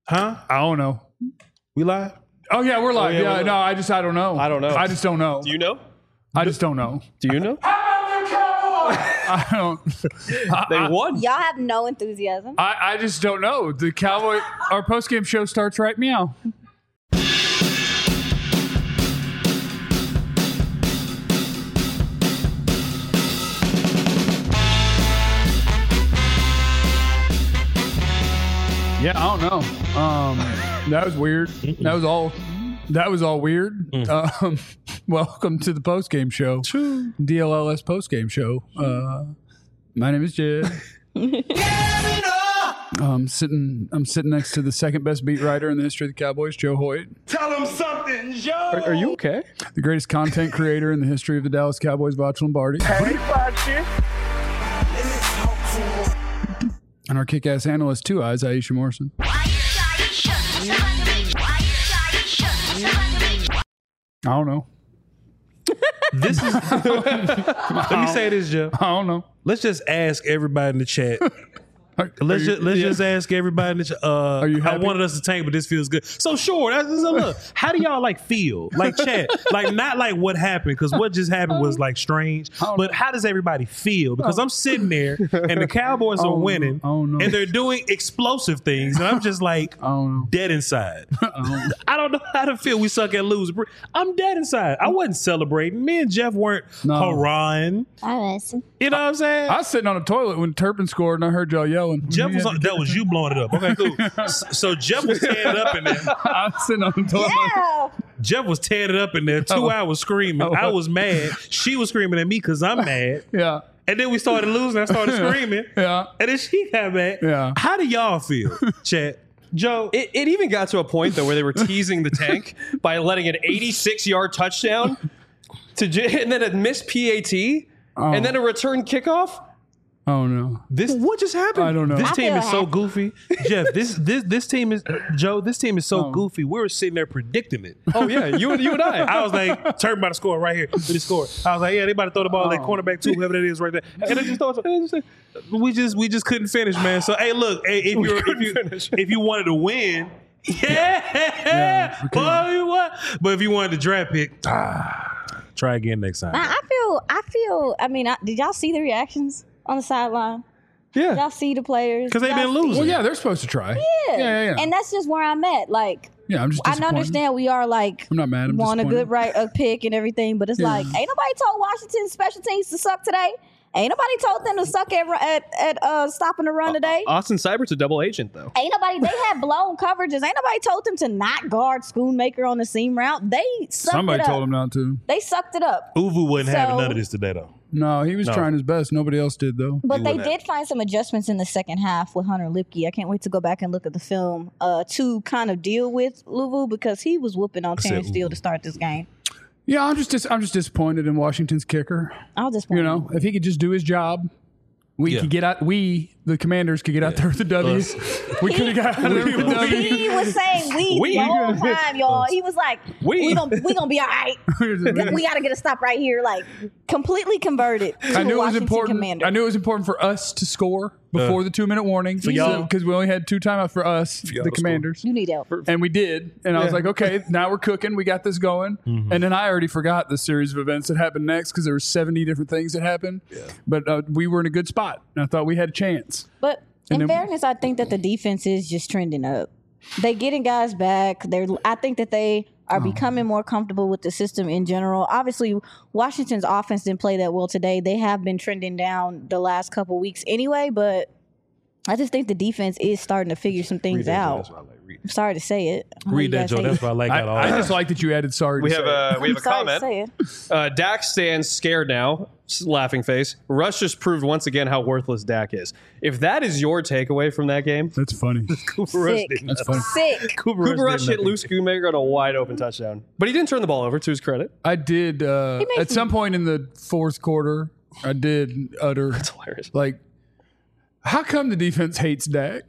Huh? I don't know. We live? Oh yeah, we're live. yeah, yeah, we're live. no, I don't know. I don't know. I just don't know. Do you know? I just don't know. Do you know? I don't. They won. Y'all have no enthusiasm. I just don't know. The Cowboy. Our post game show starts right meow. Yeah, I don't know. That was weird. That was all weird. Welcome to the post game show, DLLS post game show. My name is Jed. I'm sitting next to the second best beat writer in the history of the Cowboys, Joe Hoyt. Tell him something, Joe. Are you okay? The greatest content creator in the history of the Dallas Cowboys, Vach Lombardi. Hey, Foxy. And our kick-ass analyst, Two Eyes, Aisha Morrison. I don't know. This is. Let me say this, Joe. I don't know. Let's just ask everybody in the chat. Let's just ask everybody in the chat. Are you I happy? wanted us to tank, but this feels good. So sure, look. How do y'all feel? Chat, not like what happened, because what just happened was strange. But how does everybody feel? Because I'm sitting there and the Cowboys are winning, and they're doing explosive things, and I'm just dead inside. I don't know how to feel. We suck at losing. I'm dead inside. I wasn't celebrating. Me and Jeff weren't hurrahing. I was. You know what I'm saying? I was sitting on the toilet when Turpin scored, and I heard y'all yelling. Jeff was on, that was you blowing it up. Okay, cool. So Jeff was tearing it up in there. I was sitting on the toilet. Yeah. Jeff was tearing it up in there. 2 hours screaming. I was mad. She was screaming at me because I'm mad. Yeah. And then we started losing. I started screaming. Yeah. And then she got back. Yeah. How do y'all feel, chat? Joe? It even got to a point, though, where they were teasing the tank by letting an 86-yard touchdown and then a missed PAT and then a return kickoff. Oh no! What just happened? I don't know. This I team feel is so happy. goofy, Jeff. This team is Joe. This team is so goofy. We were sitting there predicting it. Oh, yeah, you and I. I was like, turn by the score right here. They scored. I was like, yeah, they about to throw the ball at cornerback too, whoever that is right there. And they just throw it. We just couldn't finish, man. So hey, look, if you wanted to win, but if you wanted to draft pick, try again next time. I feel. I mean, did y'all see the reactions on the sideline? Yeah. Y'all see the players? Because they've been Y'all see- losing. Well, yeah, they're supposed to try. Yeah. And that's just where I'm at. Yeah, I'm just. I disappointed. understand we are I'm not mad. I'm want a disappointed. good pick and everything, but it's ain't nobody told Washington's special teams to suck today. Ain't nobody told them to suck at stopping the run today. Austin Seibert's a double agent, though. Ain't nobody. They had blown coverages. Ain't nobody told them to not guard Schoonmaker on the seam route. They sucked Somebody it up. told him not to. They sucked it up. Uvu wasn't having So- none of this today, though. No, he was trying his best. Nobody else did though. But they did find some adjustments in the second half with Hunter Lipke. I can't wait to go back and look at the film to kind of deal with Luvu because he was whooping on Terrence Steele to start this game. Yeah, I'm just disappointed in Washington's kicker. I'll just If he could just do his job, we could get out. The Commanders could get out there with the W's. We could have got out there with the W. He was saying we the whole time, y'all. He was like, we gonna be all right. We got to get a stop right here. Completely converted to I knew it was Washington important. Commander. I knew it was important for us to score before the 2-minute warning for y'all. because we only had 2 timeouts for us, the Commanders. You need help. And we did. And I was like, okay, now we're cooking. We got this going. Mm-hmm. And then I already forgot the series of events that happened next because there were 70 different things that happened. Yeah. But we were in a good spot. And I thought we had a chance. But in then- fairness, I think that the defense is just trending up. They getting guys back. I think that they are becoming more comfortable with the system in general. Obviously, Washington's offense didn't play that well today. They have been trending down the last couple weeks anyway, but I just think the defense is starting to figure some things out. I'm sorry to say it. Read that, Joe. That's why I like that all. I just like that you added sorry We to have say it. we have a Sorry to comment. say it. Dak stands scared now, laughing face. Russ just proved once again how worthless Dak is. If that is your takeaway from that game, That's funny. Cooper Rush Sick. did That's nothing. funny. Sick. Cooper Rush hit Luke Schoonmaker on a wide open touchdown. But he didn't turn the ball over, to his credit. I did, at some point in the fourth quarter, I did utter, It's hilarious. how come the defense hates Dak?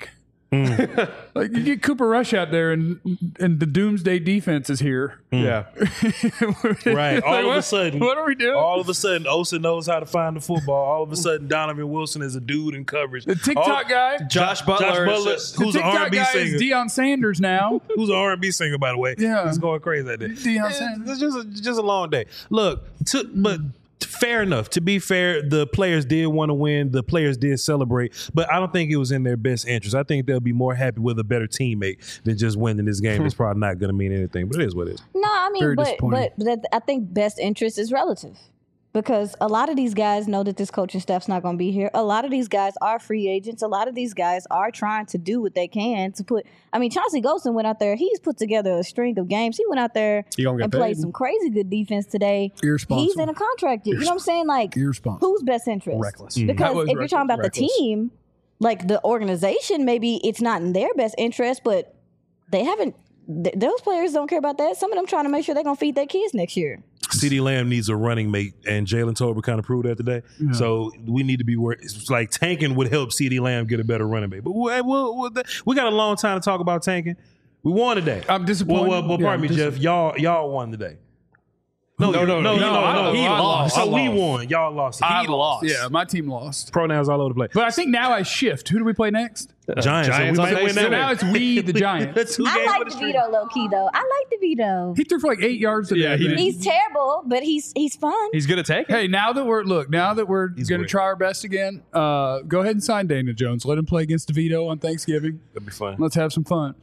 Like you get Cooper Rush out there, and the doomsday defense is here. Yeah. Right. All of what- a sudden, what are we doing? All of a sudden, Osa knows how to find the football. All of a sudden, Donovan Wilson is a dude in coverage. The TikTok guy, Josh Butler. is- who's the an TikTok R&B guy singer. is Deion Sanders now. Who's an R&B singer, by the way. Yeah. He's going crazy that day. Deion Sanders. It's just a long day. Look, but fair enough. To be fair, the players did want to win. The players did celebrate, but I don't think it was in their best interest. I think they'll be more happy with a better teammate than just winning this game. It's probably not going to mean anything, but it is what it is. No, I mean, Very but disappointing. I think best interest is relative because a lot of these guys know that this coaching staff's not going to be here. A lot of these guys are free agents. A lot of these guys are trying to do what they can to put. I mean, Chauncey Golston went out there. He's put together a string of games. He went out there He gonna get and played paid. some crazy good defense today. Irresponsible. He's in a contract year. You know what I'm saying? Like, Irresponsible. who's best interest? Reckless. That Because was if you're talking about the reckless. team, like the organization, maybe it's not in their best interest, but they haven't. Those players don't care about that. Some of them trying to make sure they're going to feed their kids next year. CeeDee Lamb needs a running mate, and Jalen Tolbert kind of proved that today. So we need to be worried. It's like tanking would help CeeDee Lamb get a better running mate. But we got a long time to talk about tanking. We won today. I'm disappointed. Well, Yeah, pardon me, I'm Jeff. Y'all won today. No. He I lost. So we won. Y'all lost. I He lost. Yeah, my team lost. Pronouns all over the place. But I think now I shift. Who do we play next? Giants. Giants so we on might win Thanksgiving. So that now one. it's we, the Giants. That's 2 I games like for the streak. DeVito low key though. I like DeVito. He threw for like 8 yards today. Yeah, he did. He's terrible, but he's fun. He's good at tanking. Hey, now that we're going to great. try our best again, go ahead and sign Daniel Jones. Let him play against DeVito on Thanksgiving. That'd be fun. Let's have some fun.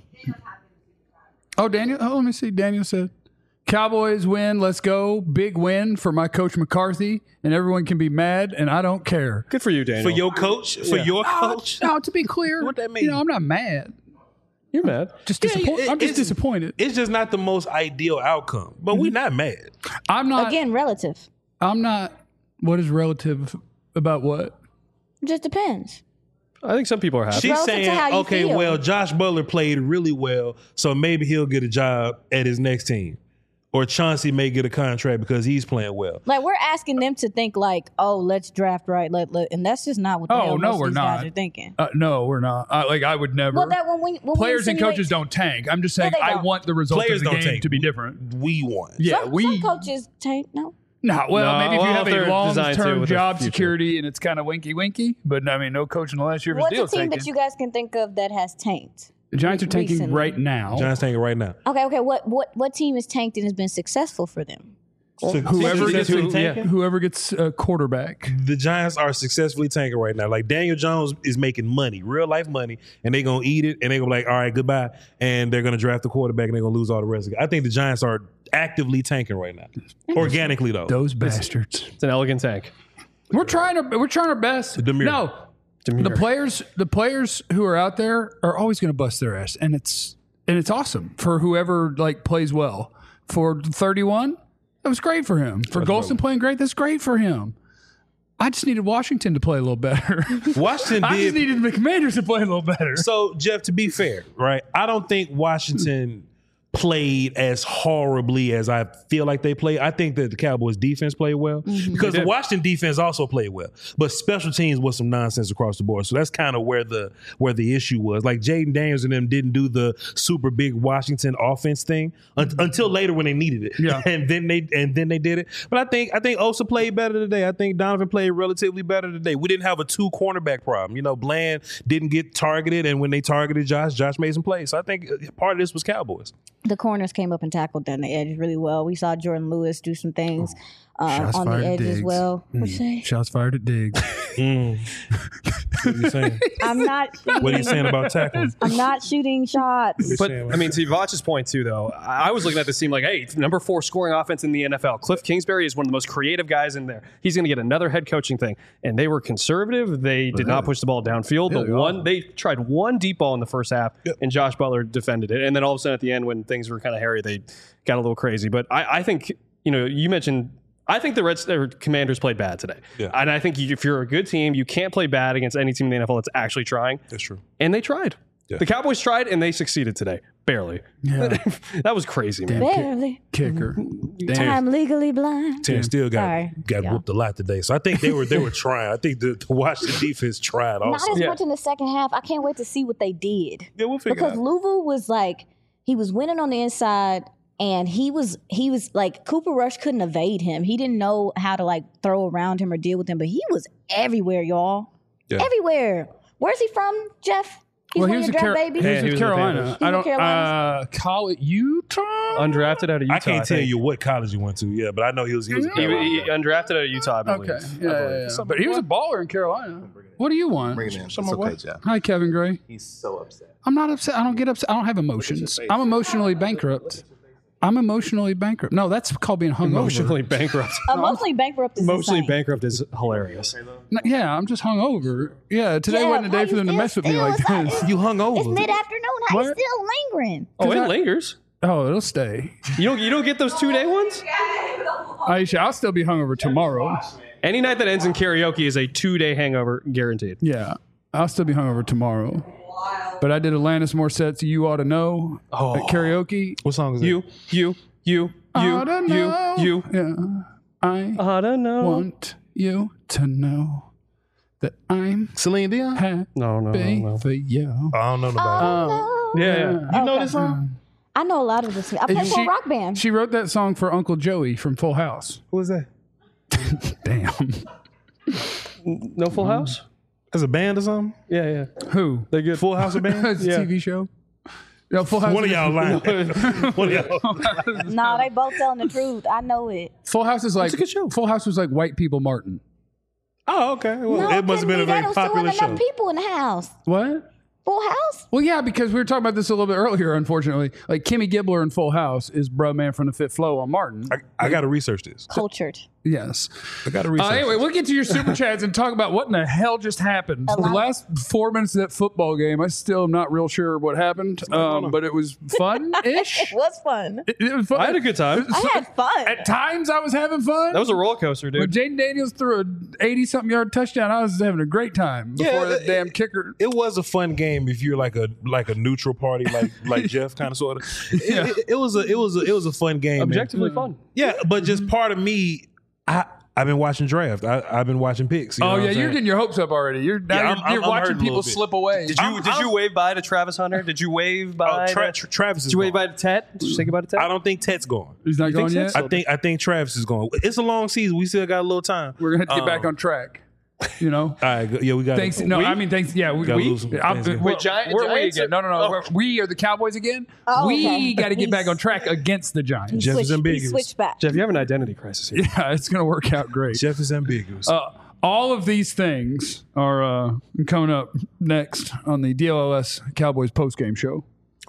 Oh, Daniel. Oh, let me see. Daniel said, Cowboys win. Let's go. Big win for my coach McCarthy, and everyone can be mad, and I don't care. Good for you, Daniel. For your coach? For your coach? No, to be clear, What that mean? I'm not mad. You're mad. Just disappointed. I'm just disappointed. It's just not the most ideal outcome, but we're not mad. I'm not. Again, relative. I'm not. What is relative about what? Just depends. I think some people are happy. She's Relative to saying, how you okay, feel. well, Josh Butler played really well, so maybe he'll get a job at his next team. Or Chauncey may get a contract because he's playing well. Like we're asking them to think like, oh, let's draft right, and that's just not what the Oh, hell no, most we're of these not. guys are thinking. No, we're not. I would never. Well, that when Players we and coaches don't tank. I'm just saying they I don't. want the result Players of the don't game tank. to be different. We won. Yeah, some coaches tank. No, No, well, No, maybe if you well, have they're a designed to long-term with a job future. security and it's kind of winky, but I mean, no coach in the last year of his what's deal a team tanking. that you guys can think of that has tanked? The Giants are tanking recently? right now. Giants tanking right now. Okay. What team has tanked and has been successful for them? Whoever gets Successfully tanking? whoever gets a quarterback. The Giants are successfully tanking right now. Like Daniel Jones is making money, real life money, and they're gonna eat it and they're gonna be like, all right, goodbye. And they're gonna draft the quarterback and they're gonna lose all the rest of it. I think the Giants are actively tanking right now. Organically though. Those bastards. It's an elegant tank. We're trying our best. Demir. No, the players who are out there are always going to bust their ass, and it's awesome for whoever like plays well. For 31, that was great for him. For Golston playing great, that's great for him. I just needed Washington to play a little better. Washington I just did. needed the Commanders to play a little better. So, Jeff, to be fair, right? I don't think Washington played as horribly as I feel like they played. I think that the Cowboys defense played well because the Washington defense also played well, but special teams was some nonsense across the board. So that's kind of where the issue was. Like Jaden Daniels and them didn't do the super big Washington offense thing until later when they needed it. Yeah. and then they did it. But I think Osa played better today. I think Donovan played relatively better today. We didn't have a 2 cornerback problem. You know, Bland didn't get targeted, and when they targeted Josh made some plays. So I think part of this was Cowboys. The corners came up and tackled down the edges really well. We saw Jordan Lewis do some things Shots on the fired at edge as Diggs. well. What you say? Shots fired at Diggs. What are you saying? I'm not. What are you saying about tackling? I'm not shooting shots. But I mean, to Vach's point too, though, I was looking at this team like, hey, it's number 4 scoring offense in the NFL. Cliff Kingsbury is one of the most creative guys in there. He's going to get another head coaching thing, and they were conservative. They did not push the ball downfield. They tried one deep ball in the first half, and Josh Butler defended it. And then all of a sudden at the end, when things were kind of hairy, they got a little crazy. But I think you mentioned. I think the Commanders played bad today. Yeah. And I think if you're a good team, you can't play bad against any team in the NFL that's actually trying. That's true. And they tried. Yeah. The Cowboys tried, and they succeeded today. Barely. Yeah. That was crazy, man. Barely. Kicker. I'm legally blind. Terrence still Sorry. got Yeah. whooped a lot today. So I think they were trying. I think the Washington defense tried Not also. as much in the second half. I can't wait to see what they did. Yeah, we'll figure Because it out. Louisville was like, he was winning on the inside, and he was like, Cooper Rush couldn't evade him. He didn't know how to like throw around him or deal with him, but he was everywhere, y'all. Yeah. Everywhere. Where's he from, Jeff? He's Well, one he was of your draft babies. Yeah, He he was was at at Carolina. Panthers. I He's don't. at Carolina. College Utah. Undrafted out of Utah. I can't tell you what college he went to. Yeah, but I know he was. He undrafted out of Utah, I believe. Okay. Yeah. But he was a baller in Carolina. What do you want? Bring it in. It's okay, Jeff. Hi, Kevin Gray. He's so upset. I'm not upset. I don't get upset. I don't have emotions. I'm emotionally bankrupt. I'm emotionally bankrupt. No, that's called being hungover. Emotionally bankrupt. Emotionally bankrupt is Emotionally insane. bankrupt is hilarious. No, yeah, I'm just hungover. Yeah, today Yeah, wasn't a day why for them to you mess with me still- like still- this. You hung It's over. mid-afternoon. How you What? still lingering? Oh, it I- lingers. Oh, it'll stay. You don't get those 2-day ones? Aisha, I'll still be hungover tomorrow. Any night that ends in karaoke is a 2-day hangover guaranteed. Yeah, I'll still be hungover tomorrow. But I did Alanis Morissette's "You Ought to Know" at karaoke. What song is that? You. Ought to know. Yeah, I I don't know. want you to know that I'm Celine Dion? happy No. for you. I don't know about Yeah. You know this song? I know a lot of this. I play for a rock band. She wrote that song for Uncle Joey from Full House. Who was that? Damn. No Full House? As a band or something? Yeah. Who? They're good. Full House of Band? It's a TV show. No, Full House. One of y'all lying. One of y'all. No, they both telling the truth. I know it. Full House is like a good show. Full House was like White People Martin. Oh, okay. Well, No, it must have been a couldn't be that. very There was still popular enough show. people in the house. What? Full House? Well, yeah, because we were talking about this a little bit earlier. Unfortunately, like Kimmy Gibbler in Full House is bro man from the Fifth Flow on Martin. I got to research this. Cultured. Yes. I got to research Anyway, this. we'll get to your super chats and talk about what in the hell just happened. The last 4 minutes of that football game, I still am not real sure what happened, but it was fun-ish. It was fun. It was fun. I had a good time. I had fun. At times, I was having fun. That was a roller coaster, When dude. Jaden Daniels threw a 80-something yard touchdown, I was having a great time before Yeah, that damn kicker. It was a fun game if you're like a neutral party like Jeff kind of sort of. It was a fun game. man. Objectively fun. Yeah, but just part of me, I've been watching draft. I've been watching picks. You know Oh what yeah, I'm you're saying? getting your hopes up already. You're Yeah, you're I'm watching hurting a people little bit. slip away. Did you wave bye to Travis Hunter? Did you wave bye? Travis is Did you wave going. bye to Tet? Did you say goodbye to Tet? I don't think Tet's going. He's not going think yet. so? I think Travis is going. It's a long season. We still got a little time. We're gonna have to get back on track. You know. All right, yeah, we got. Thanks. No, I mean thanks. Yeah, Gotta we. lose some things, yeah. Wait, Giants we're we or- again. No. We are the Cowboys again. Oh, we okay. got to get back on track against the Giants. Jeff is He ambiguous. switched back. Jeff, you have an identity crisis here. Yeah, it's gonna work out great. Jeff is ambiguous. All of these things are coming up next on the DLLS Cowboys postgame show.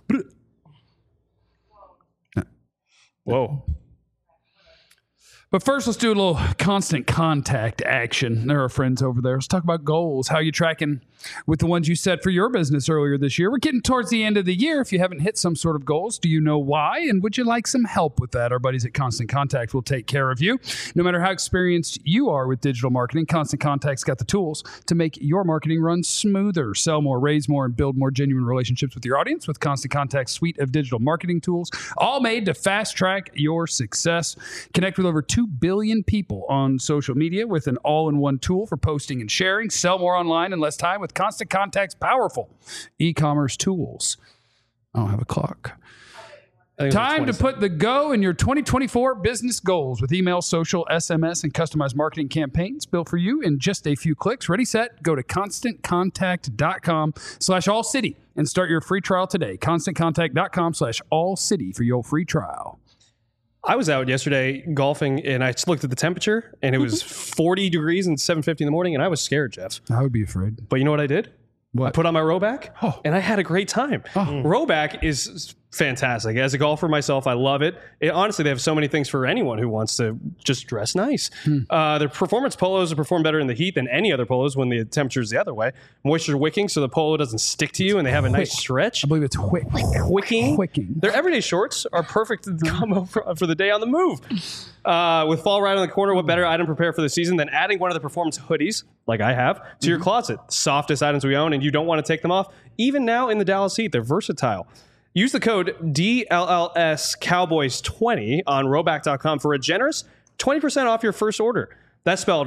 Whoa. But first, let's do a little constant contact action. There are friends over there. Let's talk about goals. How are you tracking with the ones you set for your business earlier this year? We're getting towards the end of the year. If you haven't hit some sort of goals, do you know why? And would you like some help with that? Our buddies at Constant Contact will take care of you. No matter how experienced you are with digital marketing, Constant Contact's got the tools to make your marketing run smoother. Sell more, raise more, and build more genuine relationships with your audience with Constant Contact's suite of digital marketing tools, all made to fast track your success. Connect with over 2 billion people on social media with an all-in-one tool for posting and sharing. Sell more online in less time with Constant Contact's powerful e-commerce tools. I don't have a clock. Time to put the go in your 2024 business goals with email, social, SMS, and customized marketing campaigns built for you in just a few clicks. Ready, set, go to constantcontact.com/allcity and start your free trial today. Constantcontact.com/allcity for your free trial. I was out yesterday golfing and I just looked at the temperature and it was 40 degrees and 7:50 in the morning and I was scared, Jeff. I would be afraid. But you know what I did? What? I put on my Rowback and I had a great time. Rowback is fantastic. As a golfer myself, I love it. Honestly, they have so many things for anyone who wants to just dress nice. Their performance polos perform better in the heat than any other polos when the temperature is the other way. Moisture wicking so the polo doesn't stick to you and they have a nice stretch. I believe it's Wicking. Wicking. Their everyday shorts are perfect combo for the day on the move. With fall right on the corner, what better item to prepare for the season than adding one of the performance hoodies, like I have, to your closet? Softest items we own, and you don't want to take them off. Even now in the Dallas heat, they're versatile. Use the code DLLS Cowboys 20 on Roback.com for a generous 20% off your first order. That's spelled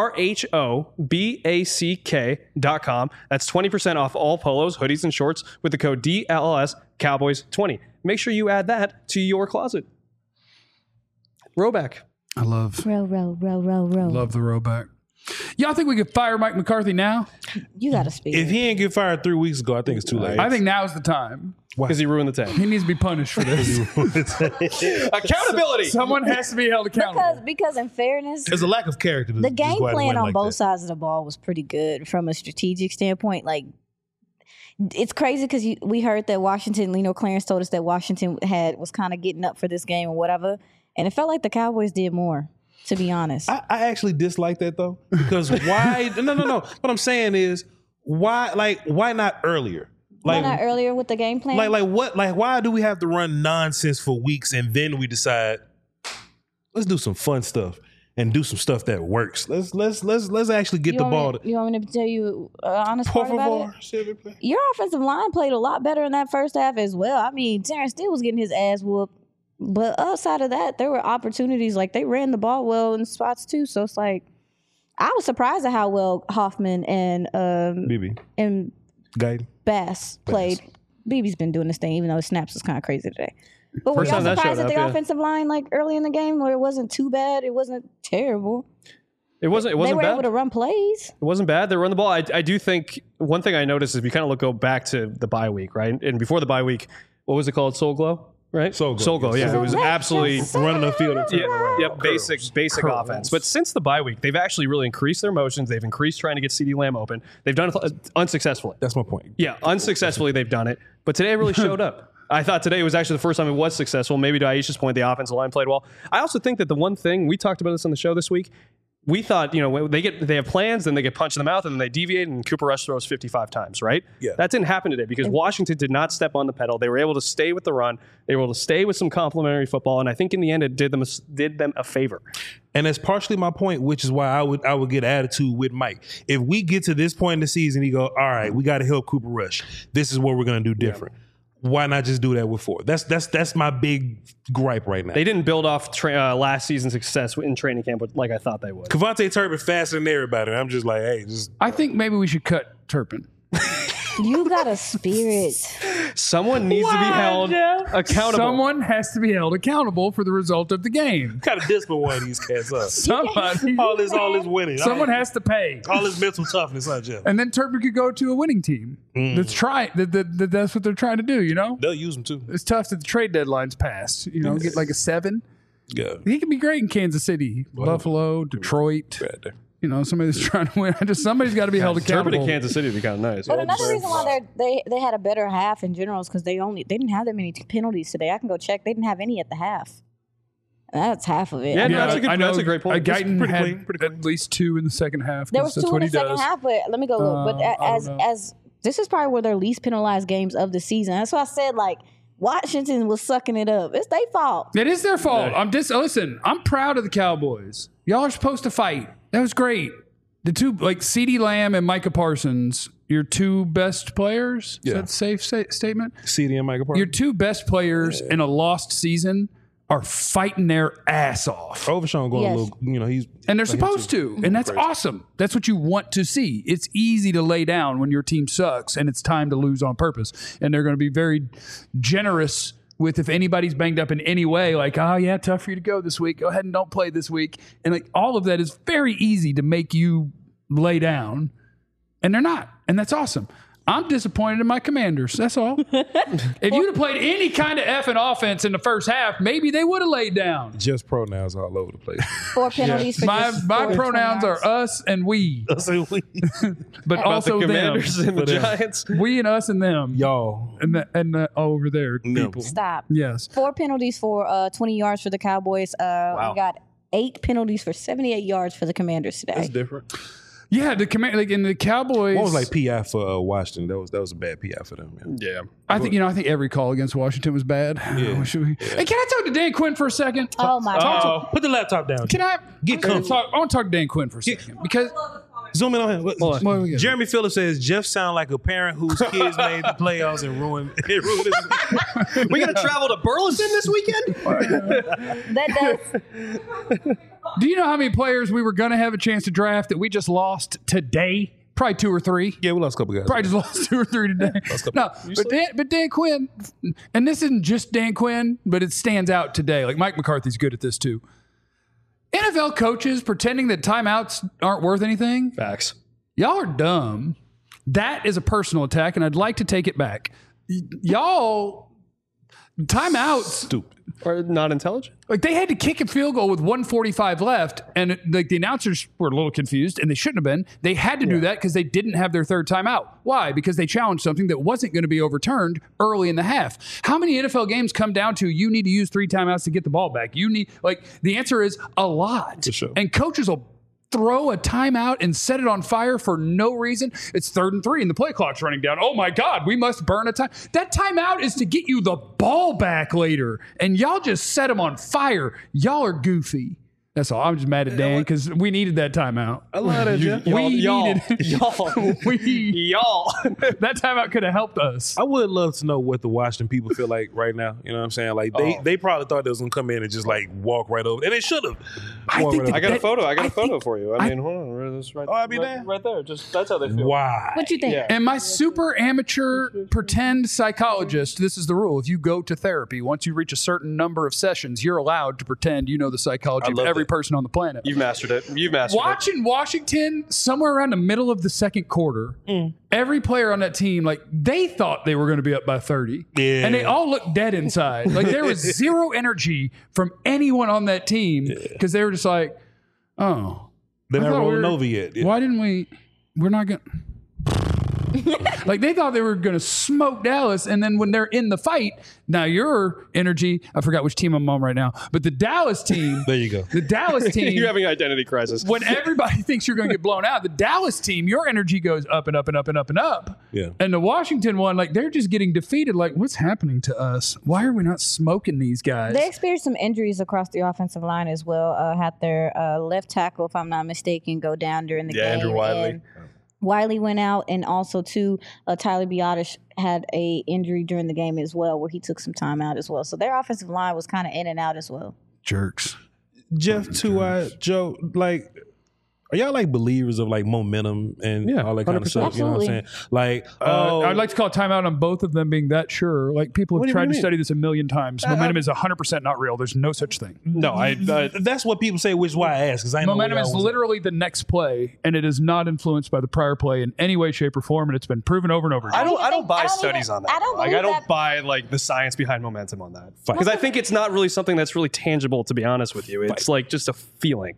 RHOBACK.com. That's 20% off all polos, hoodies, and shorts with the code DLLS Cowboys 20. Make sure you add that to your closet. Roback. I love Row. love the Roback. Y'all think we could fire Mike McCarthy now? You got to speak. If he ain't get fired 3 weeks ago, I think it's too late. I think now's the time. Because he ruined the team. He needs to be punished for this. Accountability. Someone has to be held accountable. because in fairness, There's a lack of character. the game plan on both sides of the ball was pretty good from a strategic standpoint. Like, it's crazy because we heard that Washington, Clarence told us that Washington was kind of getting up for this game or whatever, and it felt like the Cowboys did more, to be honest. I actually dislike that though, because why? No. What I'm saying is, why not earlier? Why not earlier with the game plan? Why do we have to run nonsense for weeks and then we decide let's do some fun stuff and do some stuff that works. Let's actually get the ball. You want me to tell you honest part about it? Your offensive line played a lot better in that first half as well. I mean, Terrence still was getting his ass whooped, but outside of that, there were opportunities. Like, they ran the ball well in spots too. So it's like, I was surprised at how well Hoffman and BB and Guyton. Bass played. BB's been doing this thing, even though his snaps was kind of crazy today. But were y'all surprised at the offensive line, like, early in the game, where it wasn't too bad? It wasn't terrible. It wasn't They were bad. able to run plays. It wasn't bad. They run the ball. I do think one thing I noticed is if you kind of go back to the bye week, right? And before the bye week, what was it called? Soul Glow, right? Soul Glow. Soul Glow. Yeah, it was absolutely running the field. Yeah, basic offense. But since the bye week, they've actually really increased their motions. They've increased trying to get CeeDee Lamb open. They've done it unsuccessfully. That's my point. Yeah, unsuccessfully they've done it. But today it really showed up. I thought today was actually the first time it was successful. Maybe to Aisha's point, the offensive line played well. I also think that the one thing, we talked about this on the show this week, we thought, they have plans, then they get punched in the mouth, and then they deviate, and Cooper Rush throws 55 times, right? Yeah. That didn't happen today because Washington did not step on the pedal. They were able to stay with the run. They were able to stay with some complimentary football, and I think in the end it did them a favor. And that's partially my point, which is why I would get attitude with Mike. If we get to this point in the season, he go, all right, we got to help Cooper Rush. This is what we're going to do different. Yeah. Why not just do that with Ford? That's my big gripe right now. They didn't build off last season's success in training camp like I thought they would. Kevontae Turpin faster than everybody. I'm just like, hey, I think maybe we should cut Turpin. You got a spirit. Someone needs to be held accountable. Someone has to be held accountable for the result of the game. Kind of discipline one of these cats up. Somebody. all this winning. Someone has to pay. All this mental toughness, huh, Jeff? And then Turpin could go to a winning team. That's what they're trying to do. They'll use them too. It's tough that the trade deadline's passed. Get like a 7. Yeah, he can be great in Kansas City, Buffalo, Detroit. Somebody that's trying to win. Somebody's got to be held accountable. Turpin in Kansas City would be kind of nice. But another reason why they had a better half in general is because they didn't have that many penalties today. I can go check. They didn't have any at the half. That's half of it. Yeah, that's a great point. Guyton had at least 2 in the second half. There was 2 in the second half, but let me go look. But as this is probably one of their least penalized games of the season. That's why I said, like, Washington was sucking it up. It's their fault. It is their fault. Listen, I'm proud of the Cowboys. Y'all are supposed to fight. That was great. The two, like CeeDee Lamb and Micah Parsons, your 2 best players. Is that a safe statement? CeeDee and Micah Parsons. Your 2 best players in a lost season are fighting their ass off. Overshawn going a little, he's... And they're supposed to. And that's awesome. That's what you want to see. It's easy to lay down when your team sucks and it's time to lose on purpose. And they're going to be very generous with if anybody's banged up in any way, like, oh, yeah, tough for you to go this week. Go ahead and don't play this week. And like all of that is very easy to make you lay down. And they're not. And that's awesome. I'm disappointed in my Commanders. That's all. If you'd have played any kind of effing offense in the first half, maybe they would have laid down. Just pronouns all over the place. 4 penalties. For my pronouns are us and we. Us and we. But also the Commanders them. and the Giants. We and us and them. Y'all. And over there, people. Stop. Yes. 4 penalties for 20 yards for the Cowboys. We got 8 penalties for 78 yards for the Commanders today. That's different. Yeah, the in the Cowboys. What was like PI for Washington? That was a bad PI for them. Man. Yeah, I think every call against Washington was bad. Yeah. Hey, can I talk to Dan Quinn for a second? Oh my God! Put the laptop down. Can I get comfortable? I want to talk to Dan Quinn for a second because Zoom in on him. Hold on. What we got? Jeremy Phillips says Jeff sound like a parent whose kids made the playoffs and ruined his. We got to travel to Burleson this weekend? That does. Do you know how many players we were going to have a chance to draft that we just lost today? Probably 2 or 3. Yeah, we lost a couple guys. Probably just lost 2 or 3 today. No, but Dan Quinn, and this isn't just Dan Quinn, but it stands out today. Like Mike McCarthy's good at this too. NFL coaches pretending that timeouts aren't worth anything. Facts. Y'all are dumb. That is a personal attack, and I'd like to take it back. Y'all, timeouts. Stupid. Or not intelligent? Like they had to kick a field goal with 1:45 left, and like the announcers were a little confused, and they shouldn't have been. They had to do that because they didn't have their third timeout. Why? Because they challenged something that wasn't going to be overturned early in the half. How many NFL games come down to you need to use 3 timeouts to get the ball back? You need the answer is a lot, sure. and coaches will throw a timeout and set it on fire for no reason. It's 3rd and 3 and the play clock's running down. Oh my God, we must burn a time. That timeout is to get you the ball back later. And y'all just set them on fire. Y'all are goofy. That's all. I'm just mad at Dan because we needed that timeout. I love that, Jeff. Y'all. Y'all. Y'all. That timeout could have helped us. I would love to know what the Washington people feel like right now. You know what I'm saying? Like they probably thought they was gonna come in and just like walk right over, and they should have. I think I got a photo. I got a photo think- for you. I mean, hold on. This right, I'll be there. right there. Just that's how they feel. Why? What you think? Yeah. And my super amateur pretend psychologist, this is the rule. If you go to therapy, once you reach a certain number of sessions, you're allowed to pretend you know the psychology of love every that. person on the planet. You've mastered it. You've mastered Watching Washington somewhere around the middle of the second quarter, every player on that team, like they thought they were going to be up by 30. Yeah. And they all looked dead inside. Like there was zero energy from anyone on that team because they were just like, oh. They're I not thought we rolling were- over yet. Yeah. Why didn't we're not going to. Like they thought they were going to smoke Dallas, and then when they're in the fight, now your energy, I forgot which team I'm on right now, but the Dallas team, There you go. the Dallas it. team, You're having an identity crisis. when everybody thinks you're going to get blown out, the Dallas team, your energy goes up and up and up and up and up. Yeah. And the Washington one, like they're just getting defeated. Like, what's happening to us? Why are we not smoking these guys? They experienced some injuries across the offensive line as well. Had their left tackle, if I'm not mistaken, go down during the game. Andrew Wiley. And Wiley went out, and also too, Tyler Biotish had a injury during the game as well, where he took some time out as well. So their offensive line was kind of in and out as well. Jerks. Jeff, Joe, like, are y'all like believers of like momentum and Yeah, all that kind of 100%. stuff? You know what I'm saying? Like, I'd like to call a timeout on both of them being that sure. Like people have do you tried to mean? study this a million times. Momentum is 100% not real. There's no such thing. No, that's what people say, which is why I ask. Because I know Momentum what is y'all was- literally the next play, and it is not influenced by the prior play in any way, shape, or form, and it's been proven over and over again. I don't buy I don't studies even- on that. I don't Like I believe don't that- buy like the science behind momentum on that. Because I think it's not really something that's really tangible, to be honest with you. It's like just a feeling.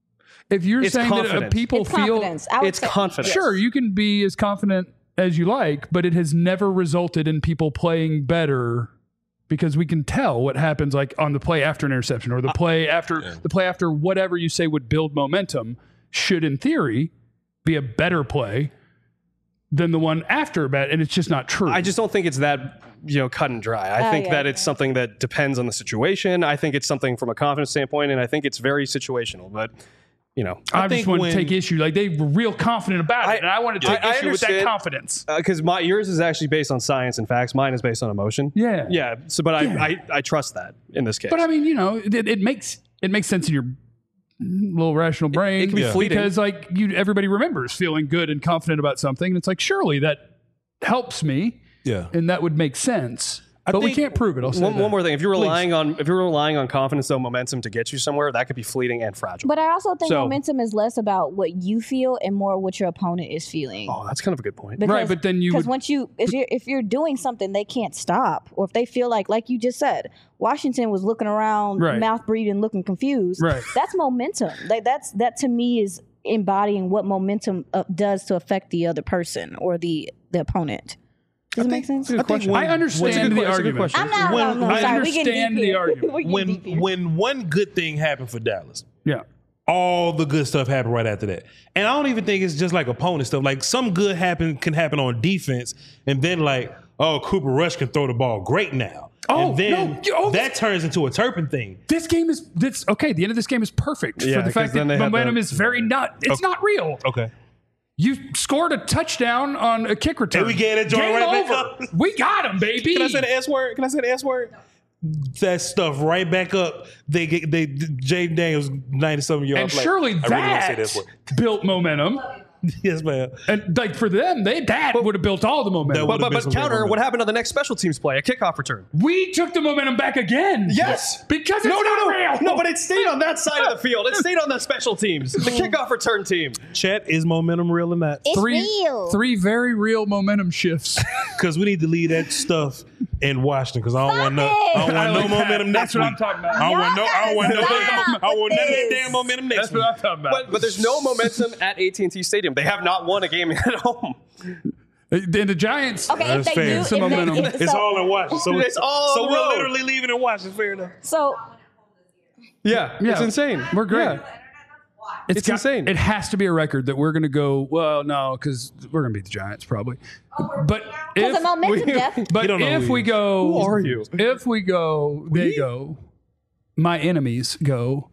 If you're It's saying that confidence. people It's feel confidence. I would It's say- confidence. sure, you can be as confident as you like, but it has never resulted in people playing better because we can tell what happens like on the play after an interception or the play after whatever you say would build momentum should in theory be a better play than the one after a bad, and it's just not true. I just don't think it's that cut and dry. I think that it's something that depends on the situation. I think it's something from a confidence standpoint, and I think it's very situational. But I just think want to when- take issue. Like they were real confident about it, and I want to take I issue with that understand. confidence. because yours is actually based on science and facts. Mine is based on emotion. Yeah. yeah. So, but I trust that in this case. But I mean, it makes sense in your little rational brain. it can be fleeting. because like everybody remembers feeling good and confident about something, and it's like surely that helps me, Yeah. and that would make sense. But we think can't prove it. I'll say one that. more thing: if you're relying on confidence, though, momentum to get you somewhere, that could be fleeting and fragile. But I also think So- momentum is less about what you feel and more what your opponent is feeling. Oh, that's kind of a good point. Right, but then you because would- once if you're doing something they can't stop, or if they feel like you just said, Washington was looking around, Right. mouth breathing, looking confused. Right. That's momentum. That to me is embodying what momentum does to affect the other person or the opponent. Does it make sense? I think I understand the argument. I'm not. When- no, I sorry, we getting understand deep the here. argument. We getting deep here. when one good thing happened for Dallas, Yeah. all the good stuff happened right after that. And I don't even think it's just like opponent stuff. Like some good can happen on defense, and then Cooper Rush can throw the ball great now. Oh, and then no. that turns into a Turpin thing. This game is okay. The end of this game is perfect Yeah, for the fact 'cause then that they have momentum the- is very not. It's not real. Okay. You scored a touchdown on a kick return. And we gave that joint Game right back over. up. We got him, baby. Can I say the S word? That stuff right back up. Jaden Daniels 90-something years. And surely that built momentum. Yes, man. And like for them, that would have built all the momentum. That But some counter, momentum. what happened on the next special teams play? A kickoff return. We took the momentum back again. Yes. Because it's not real. No, but it stayed on that side of the field. It stayed on the special teams. The kickoff return team. Chat, is momentum real or not? It's real. Three very real momentum shifts. Because we need to leave that stuff in Washington. Because I don't want no momentum next week. That's what I'm talking about. I don't want Y'all none of that this. damn momentum next That's week. what I'm talking about. But there's no momentum at AT&T Stadium. They have not won a game at home. And the Giants. Okay, if That's they fair. do, Some momentum. It's all in Washington. So It's all so on the we're road. literally leaving in Washington. Fair enough. So Yeah, it's insane. We're great. Yeah. It's insane. It has to be a record that we're going to go. Well, no, because we're going to beat the Giants probably. But because of momentum, we- Jeff. But You don't know if who we he go, Who are you? If we go, they go. My enemies go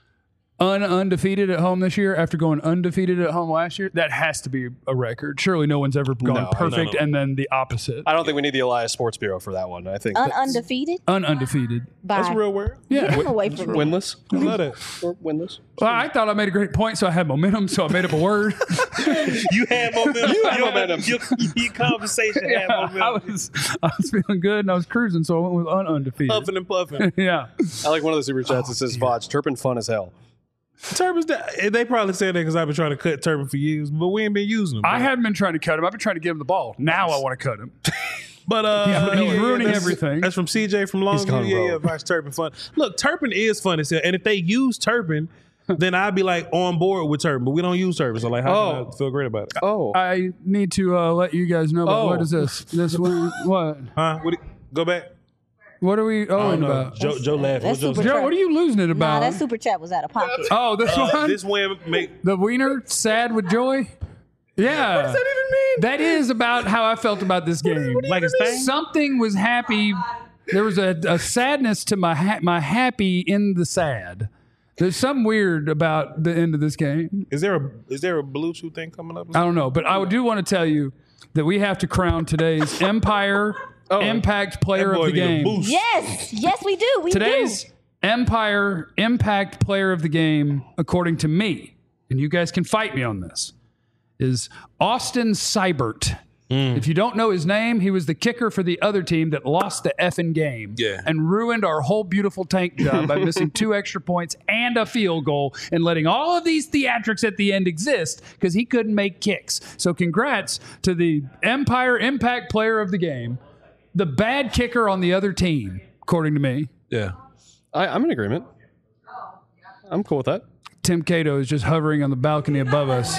undefeated at home this year after going undefeated at home last year. That has to be a record. Surely no one's ever gone No, perfect no. and then the opposite. I don't think we need the Elias Sports Bureau for that one. I think Undefeated. Undefeated. That's Bye. a real word. Yeah. Get him away from me. winless. I love that. Or winless. Well, I thought I made a great point, so I had momentum, so I made up a word. You had momentum. You had momentum. Your conversation had I momentum. was feeling good and I was cruising, so I went with undefeated. Puffing and puffing. Yeah. I like one of the super chats that says, Vodge, Turpin fun as hell. Turpin's they probably said that because I've been trying to cut Turpin for years, but we ain't been using them. I haven't been trying to cut him. I've been trying to give him the ball. Now I want to cut him. But he's ruining that's- everything. That's from CJ from gone Longview. Yeah, rogue. Vice Turpin fun. Look, Turpin is fun as hell, and if they use Turpin, then I'd be like on board with Turpin. But we don't use Turpin, so like, how can I feel great about it? Oh. I need to let you guys know about Oh. what is this? This one? What? Huh? Go back. What are we owing about? Joe laughing. That's What Joe super say? Joe, what are you losing it Nah, about? that super chat was out of pocket. Oh, this one? This win make The wiener sad with joy? Yeah. What does that even mean? That is about how I felt about this game. like his thing. Something was happy. There was a sadness to my happy in the sad. There's something weird about the end of this game. Is there a Bluetooth thing coming up? I don't know, but I do want to tell you that we have to crown today's Empire Impact Player That boy of the need a Game. boost. Yes, we do. We Today's do. Empire Impact Player of the Game, according to me, and you guys can fight me on this, is Austin Seibert. If you don't know his name, he was the kicker for the other team that lost the effing game and ruined our whole beautiful tank job by missing 2 extra points and a field goal and letting all of these theatrics at the end exist because he couldn't make kicks. So congrats to the Empire Impact Player of the Game, the bad kicker on the other team, according to me. Yeah. I'm in agreement. I'm cool with that. Tim Cato is just hovering on the balcony above us.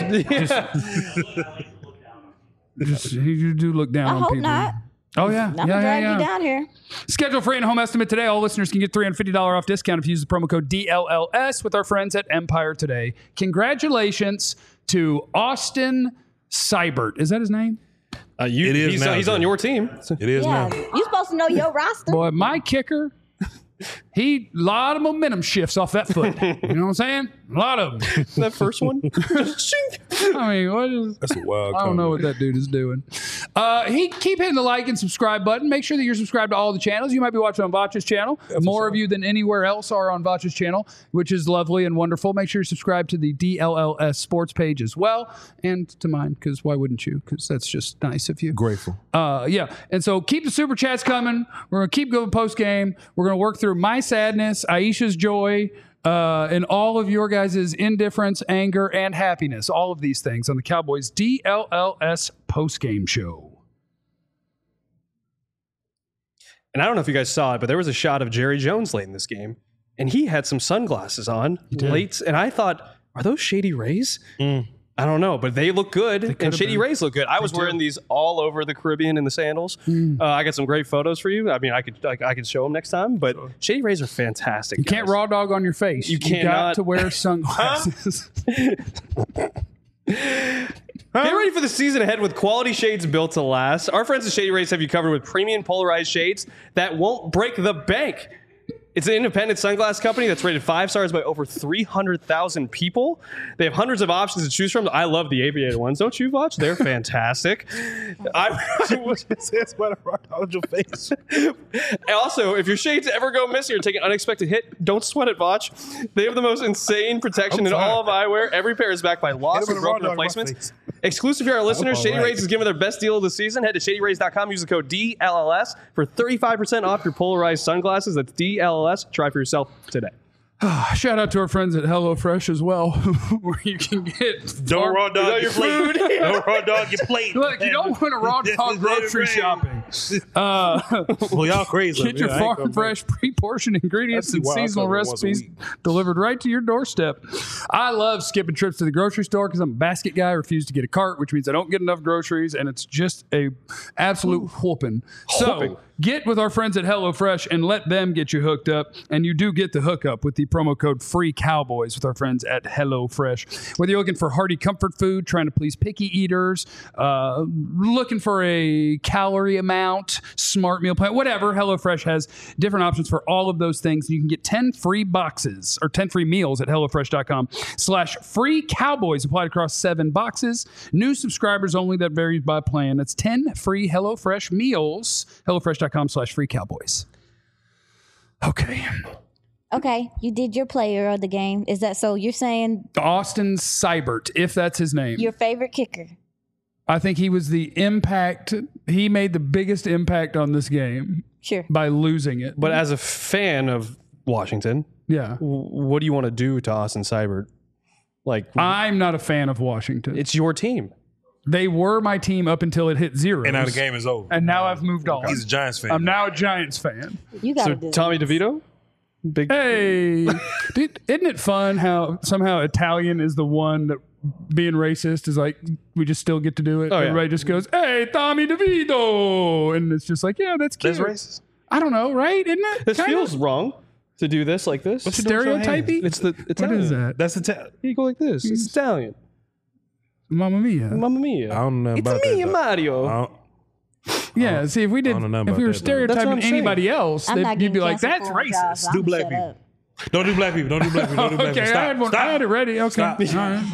You do look down I on hope people. not. Oh, yeah. I'm gonna drag you down here. Schedule free and home estimate today. All listeners can get $350 off discount if you use the promo code DLLS with our friends at Empire Today. Congratulations to Austin Seibert. Is that his name? It is now, he's on your team. It is Yeah, now. you supposed to know your roster. Boy, my kicker, a lot of momentum shifts off that foot. You know what I'm saying? A lot of them. That first one. I mean, what is... That's a wild. I don't know what that dude is doing. Keep hitting the like and subscribe button. Make sure that you're subscribed to all the channels. You might be watching on Vacha's channel. More of you than anywhere else are on Vacha's channel, which is lovely and wonderful. Make sure you're subscribed to the DLLS sports page as well, and to mine, because why wouldn't you? Because that's just nice of you. Grateful. Yeah. And so keep the super chats coming. We're going to keep going post game. We're going to work through my sadness, Aisha's joy, and all of your guys' indifference, anger, and happiness. All of these things on the Cowboys DLLS post game show. And I don't know if you guys saw it, but there was a shot of Jerry Jones late in this game, and he had some sunglasses on late. And I thought, are those Shady Rays? I don't know, but they look good, and Shady Rays look good. I was wearing these all over the Caribbean in the sandals. I got some great photos for you. I mean, I could show them next time, but Shady Rays are fantastic. You can't raw dog on your face. You got cannot. to wear sunglasses. Get ready for the season ahead with quality shades built to last. Our friends at Shady Rays have you covered with premium polarized shades that won't break the bank. It's an independent sunglass company that's rated 5 stars by over 300,000 people. They have hundreds of options to choose from. I love the aviator ones. Don't you, Vach? They're fantastic. That's what I rock on your face. Also, if your shades ever go missing or take an unexpected hit, don't sweat it, Vach. They have the most insane protection in all of eyewear. Every pair is backed by lost and broken replacements. Exclusive to our listeners, Shady Rays is giving their best deal of the season. Head to ShadyRays.com. Use the code DLLS for 35% off your polarized sunglasses. That's DLLS. Try for yourself today. Shout out to our friends at HelloFresh as well, where you can get Don't raw dog your food. Don't raw dog your plate. Look, you don't want to raw dog grocery shopping. Well, y'all crazy. Get your farm fresh, pre-portioned ingredients and seasonal recipes delivered right to your doorstep. I love skipping trips to the grocery store because I'm a basket guy. I refuse to get a cart, which means I don't get enough groceries, and it's just a absolute whooping. So get with our friends at HelloFresh and let them get you hooked up, and you do get the hookup with the promo code FREECowboys with our friends at HelloFresh. Whether you're looking for hearty comfort food, trying to please picky eaters, looking for a calorie amount, smart meal plan, whatever, HelloFresh has different options for all of those things. You can get 10 free boxes or 10 free meals at HelloFresh.com/FreeCowboys applied across 7 boxes. New subscribers only. That varies by plan. That's 10 free HelloFresh meals. HelloFresh.com/FreeCowboys. Okay, you did your player of the game. Is that so? You're saying Austin Seibert, if that's his name. your favorite kicker? I think he was the impact. He made the biggest impact on this game Sure. by losing it. But as a fan of Washington, yeah, what do you want to do to Austin Seibert? Like, I'm not a fan of Washington. it's your team. They were my team up until it hit 0. And now the game is over. And now I've moved on. He's a Giants fan. I'm now a Giants fan. You got So to Tommy DeVito? Big. Hey, dude, isn't it fun how somehow Italian is the one that being racist is like, we just still get to do it. Oh, yeah. Everybody just goes, hey, Tommy DeVito. And it's just like, yeah, that's cute. That's racist. I don't know, right? Isn't it? This Kinda feels wrong to do this like this. stereotypy. It's the Italian. What is that? That's the You go like this. It's Italian. Mamma mia. Mamma mia. I don't know It's about me, that. Mario. Yeah, see, if we did, don't know if about we were that, though. That's what stereotyping I'm anybody else, I'm not you'd be getting like, that's canceled for my job, racist. so I'm Do gonna black shut people. up. Don't do black people. Don't do black people. Don't do black Okay, people. Stop. I had it ready. Okay. Stop. All right.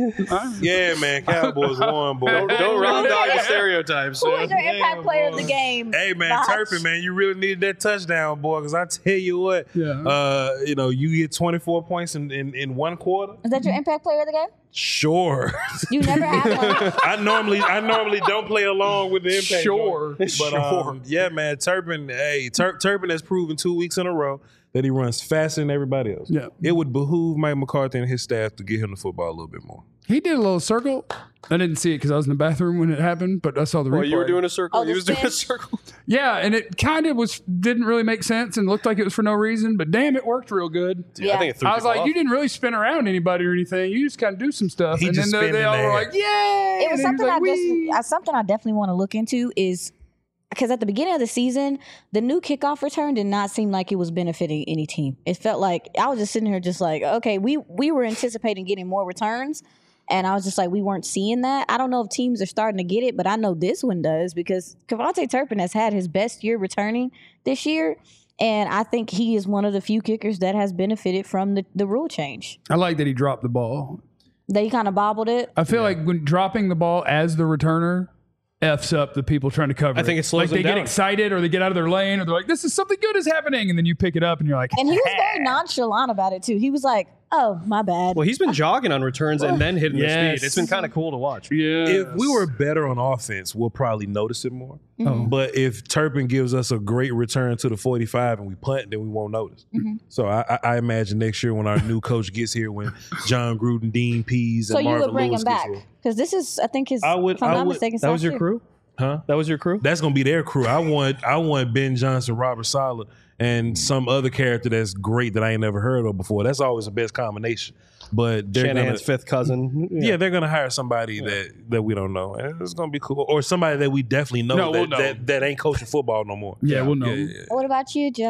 Yeah, man. Cowboys won, boy. Don't round dog your stereotypes. Who is your impact player of the game? Hey, man, Vach? Turpin, man, you really needed that touchdown, boy, because I tell you what, Yeah. you get 24 points in one quarter. Is that your impact player of the game? Sure. You never had one. I normally don't play along with the impact. Sure. But yeah, man, Turpin, Turpin has proven 2 weeks in a row that he runs faster than everybody else. Yeah. It would behoove Mike McCarthy and his staff to get him the football a little bit more. He did a little circle. I didn't see it because I was in the bathroom when it happened, but I saw the replay. Well, you were doing a circle. Oh, He the was doing a spin? circle. Yeah, and it kind of didn't really make sense and looked like it was for no reason, but damn, it worked real good. Yeah. I think it threw I was people like, off. you didn't really spin around anybody or anything. You just kind of do some stuff. He and just then spin they in all the were air. like, yay! It was And he like, something I definitely want to look into is because at the beginning of the season, the new kickoff return did not seem like it was benefiting any team. It felt like I was just sitting here just like, okay, we were anticipating getting more returns. And I was just like, we weren't seeing that. I don't know if teams are starting to get it, but I know this one does because Kevontae Turpin has had his best year returning this year. And I think he is one of the few kickers that has benefited from the rule change. I like that he dropped the ball. They kind of bobbled it. I feel like when dropping the ball as the returner F's up the people trying to cover I think it slows like they them get down. excited or they get out of their lane or they're like, this is something good is happening. And then you pick it up and you're like, And he was very nonchalant about it, too. He was like, oh, my bad. Well, he's been jogging on returns and then hitting Yes. the speed. It's been kind of cool to watch. yeah. If we were better on offense, we'll probably notice it more. But if Turpin gives us a great return to the 45 and we punt, then we won't notice. So I imagine next year when our new coach gets here, when John Gruden, Dean Pease, So and you Marvin would bring Lewis him gets back? here. Because this is, I think, his, I would- if I'm I not would- mistaken, That was your crew? Huh? That was your crew? That's gonna be their crew. I want Ben Johnson, Robert Saleh, and some other character that's great that I ain't never heard of before. That's always the best combination. But they're Shanahan's gonna, fifth cousin. yeah, they're gonna hire somebody that we don't know. And it's gonna be cool, or somebody that we definitely know, No, we'll know. that ain't coaching football no more. Yeah, we'll know. What about you, Joe?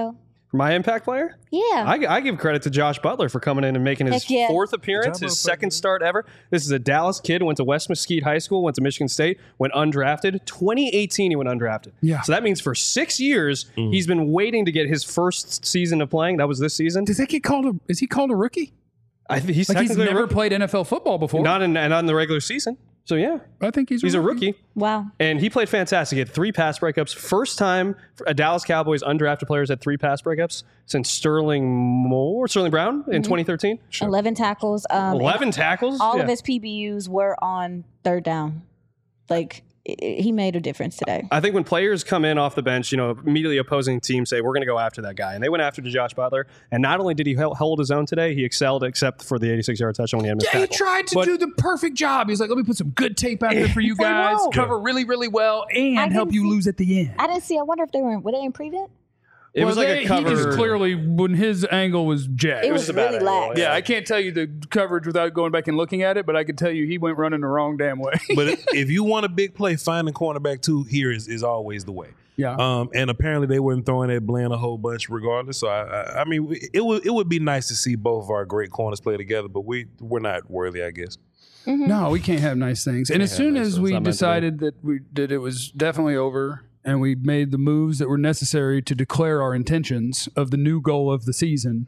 My impact player? Yeah. I give credit to Josh Butler for coming in and making his Heck yeah. fourth appearance, his second start ever. This is a Dallas kid, went to West Mesquite High School, went to Michigan State, went undrafted. 2018, he went undrafted. Yeah. So that means for 6 years, he's been waiting to get his first season of playing. That was this season. Does that get called is he called a rookie? I think he's Like he's technically a never rookie. played NFL football before. Not in the regular season. So yeah, I think he's a rookie. Wow. And he played fantastic. He had 3 pass breakups. First time a Dallas Cowboys undrafted players had 3 pass breakups since Sterling Brown in 2013. 11 tackles. 11 tackles. All Yeah. of his PBUs were on third down. Like, he made a difference today. I think when players come in off the bench, immediately opposing teams say, we're going to go after that guy. And they went after Josh Butler. And not only did he hold his own today, he excelled except for the 86-yard touchdown when he had missed Yeah, he tackle. tried to do the perfect job. He's like, let me put some good tape out there for you guys, know. cover really, really well, and help you lose at the end. I didn't see. I wonder if were they in prevent? It was like a cover. He just clearly, when his angle was jacked. It was a bad really angle, lax. Yeah, I can't tell you the coverage without going back and looking at it, but I can tell you he went running the wrong damn way. But if you want a big play, finding cornerback too here is always the way. Yeah. And apparently they weren't throwing at Bland a whole bunch regardless. So I mean, it would be nice to see both of our great corners play together, but we're not worthy, I guess. No, we can't have nice things. And as soon nice as things. we Not meant to be. decided that it was definitely over, and we made the moves that were necessary to declare our intentions of the new goal of the season,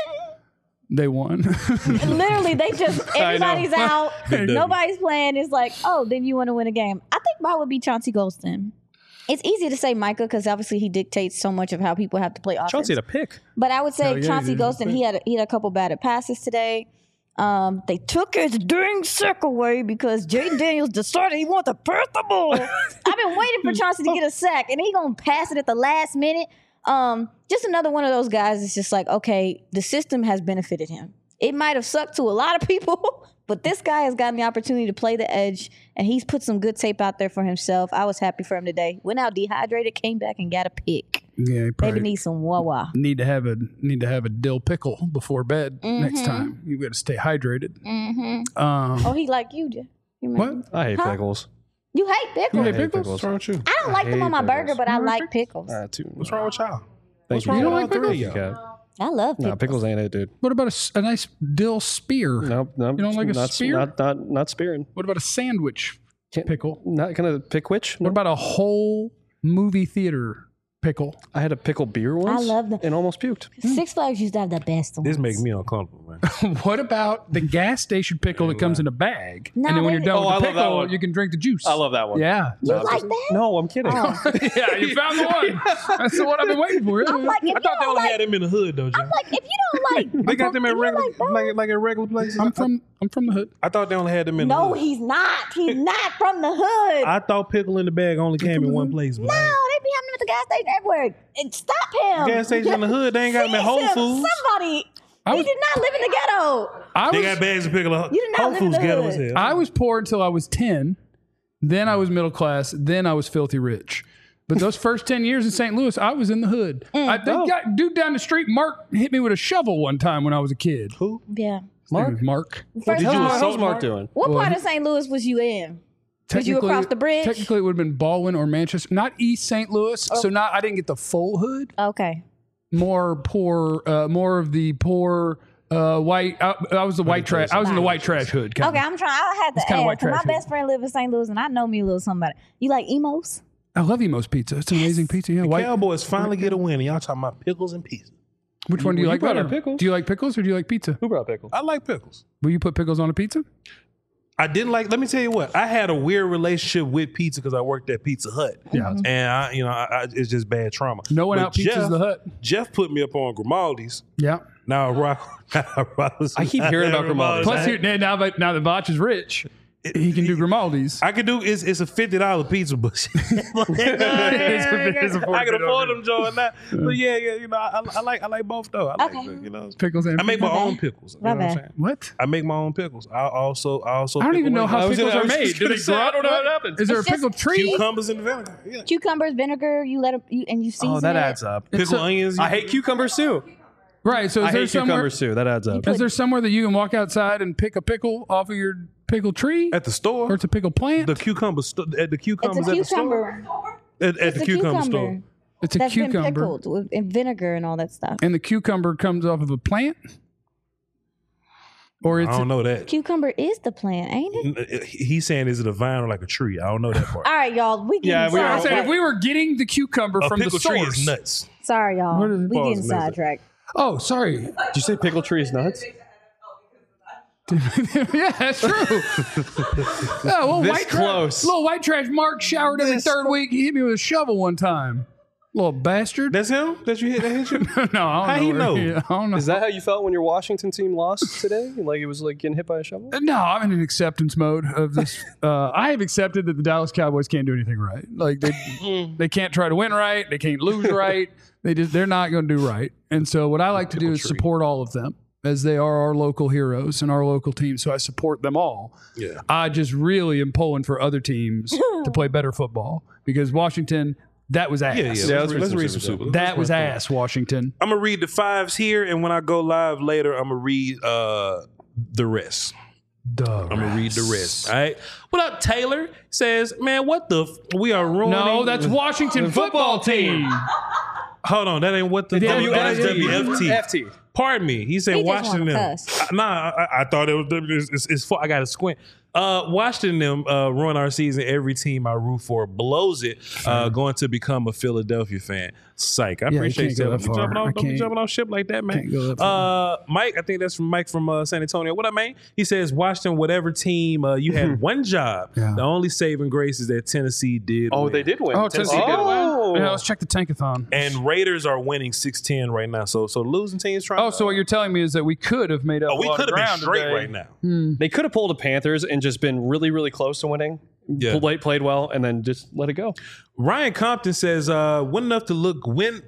they won. Literally, they just everybody's out. did. Nobody's playing. It's like, oh, then you want to win a game. I think mine would be Chauncey Golston. It's easy to say Micah because obviously he dictates so much of how people have to play offense. Chauncey had a pick. But I would say Hell yeah, Chauncey he did. Golston, he had a couple batted passes today. They took his dang sack away because Jaden Daniels decided he wanted to pass the ball. I've been waiting for Chauncey to get a sack, and he gonna pass it at the last minute. Just another one of those guys. It's just like, okay, the system has benefited him. It might have sucked to a lot of people, but this guy has gotten the opportunity to play the edge, and he's put some good tape out there for himself. I was happy for him today. Went out dehydrated, came back and got a pick. Yeah, he Maybe probably needs some wawa. need to have a dill pickle before bed next time. You got to stay hydrated. Oh, he like you, Jeff. You What? remember? I hate Huh? pickles. You hate pickles? You I hate hate pickles? What's wrong with you? I don't like them on my hate burger, pickles. but I like pickles. What's wrong with y'all? Thank wrong you. with all three of y'all? Okay. I love pickles. No, pickles ain't it, dude. What about a nice dill spear? No, You don't like a not, spear? Not spearing. What about a sandwich Can't- pickle? Not gonna pick which. What about a whole movie theater pickle? I had a pickle beer once. love them. and almost puked. Six Flags used to have the best ones. This makes me uncomfortable, man. What about the gas station pickle that comes in a bag? No, and then when they- you're done Oh, with I the love that pickle, one. you can drink the juice. I love that one. Yeah. You like that? No, I'm kidding. Yeah, you found the one. That's the one I've been waiting for. I'm like, if I you thought they don't only like, had them in the hood, though, John. like, if you don't like, They got them at if you regular, like those- like at regular places. I'm from the hood. I thought they only had them in the No, hood. he's not. He's not from the hood. I thought pickle in the bag only came in one place. No, they be having them at the gas station everywhere. And stop him. Gas station in the hood, they ain't got them at Whole Seize him. Foods. Somebody. He did not live in the ghetto. They got bags of pickle. You did not Whole live in Foods the ghetto hood. as hell. I was poor until I was 10. Then I was middle class. Then I was filthy rich. But those first 10 years in St. Louis, I was in the hood. Dude down the street, Mark, hit me with a shovel one time when I was a kid. Who? Yeah. Mark. First of all, How's Mark doing? what Well, part of St. Louis was you in? Was you Technically- across the bridge? Technically, it would have been Baldwin or Manchester, not East St. Louis. Oh. So I didn't get the full hood. Okay. More of the poor white. I was the white trash. I was in the white trash hood. Okay, I'm trying. I had to It's kinda white ask. 'Cause trash my here. best friend lives in St. Louis, and I know me a little somebody. You like emos? I love Emo's Pizza. It's an amazing pizza. Yeah, white. Cowboys finally get a win, and y'all talking about pickles and pizza. Which one do you you like brought better? up pickles. Do you like pickles or do you like pizza? Who brought pickles? I like pickles. Will you put pickles on a pizza? I didn't like. Let me tell you what. I had a weird relationship with pizza because I worked at Pizza Hut. Yeah. And it's just bad trauma. No one But out pizzas the Hut. Jeff put me up on Grimaldi's. Yeah. Now Rock. I keep hearing about Grimaldi's. Plus, now that Botch is rich, he can do Grimaldi's. I could do. It's a $50 pizza, but I can afford them, Joe. And that. But yeah. I like both though. I like Okay. Pickles and I make my pizza. own pickles. You know My what I'm bad. saying? What? I make my own pickles. I also. I don't even know how I was pickles gonna- are I was made. just Do they gonna say, grow? I don't know how it happens. Is there It's a pickle just tree? Cucumbers and vinegar. Yeah. Cucumbers, vinegar. You let them, and you season Oh, that it. adds up. Pickle onions. I hate cucumbers too. Right. So I is there hate somewhere? cucumbers too. That adds up. Is there somewhere that you can walk outside and pick a pickle off of your pickle tree, at the store. or it's a pickle plant? The cucumbers at the It's cucumbers a at the store. cucumber. At It's the a cucumber cucumber. store. It's a That's been cucumber. pickled in vinegar and all that stuff. And the cucumber comes off of a plant? Or I it's don't know that. Cucumber is the plant, ain't it? He's saying, is it a vine or like a tree? I don't know that part. All right, y'all. We Yeah, getting we are I said sidetracked. if we were getting the cucumber A from the pickle tree source. is nuts. Sorry, y'all. What is it? We Pause getting and listen. sidetracked. Oh, sorry. Did you say pickle tree is nuts? Yeah, that's true. Yeah, This close. Little white trash Mark showered every third week. He hit me with a shovel one time. Little bastard. That's him? That hit you? No, I don't How he know? I don't know. Is that how you felt when your Washington team lost today? Like it was like getting hit by a shovel? No, I'm in an acceptance mode of this. I have accepted that the Dallas Cowboys can't do anything right. Like they can't try to win right. They can't lose right. They're not going to do right. And so what I like to do is support all of them, as they are our local heroes and our local teams. So I support them all. Yeah. I just really am pulling for other teams to play better football because Washington, that was ass. Let's read some super. That was ass, Washington. I'm going to read the fives here, and when I go live later, I'm going to read the rest. I'm going to read the rest. All right. What up, Taylor? Says, man, what the we are ruining. No, that's Washington football team. Hold on. That ain't what the WFT. WFT. FT. Pardon me. He said He just Washington wanna them. cuss. I thought it was. It's I got to squint. Washington them run our season. Every team I root for blows it. Going to become a Philadelphia fan. Psych. I Yeah, appreciate you can't go that. that far. Don't be jumping off ship like that, man. Can't go that far. Mike, I think that's from Mike from San Antonio. What up, man? He says Washington, whatever team you had one job. Yeah. The only saving grace is that Tennessee did. Oh, win. they did win. Oh, Tennessee did Oh. win. Yeah, let's check the tankathon. And Raiders are winning 6-10 right now. So losing teams trying. Oh, so what you're telling me is that we could have made up a we lot could of have been ground straight today. right now. They could have pulled the Panthers and just been really, really close to winning. Yeah. Played well and then just let it go. Ryan Compton says, win enough to look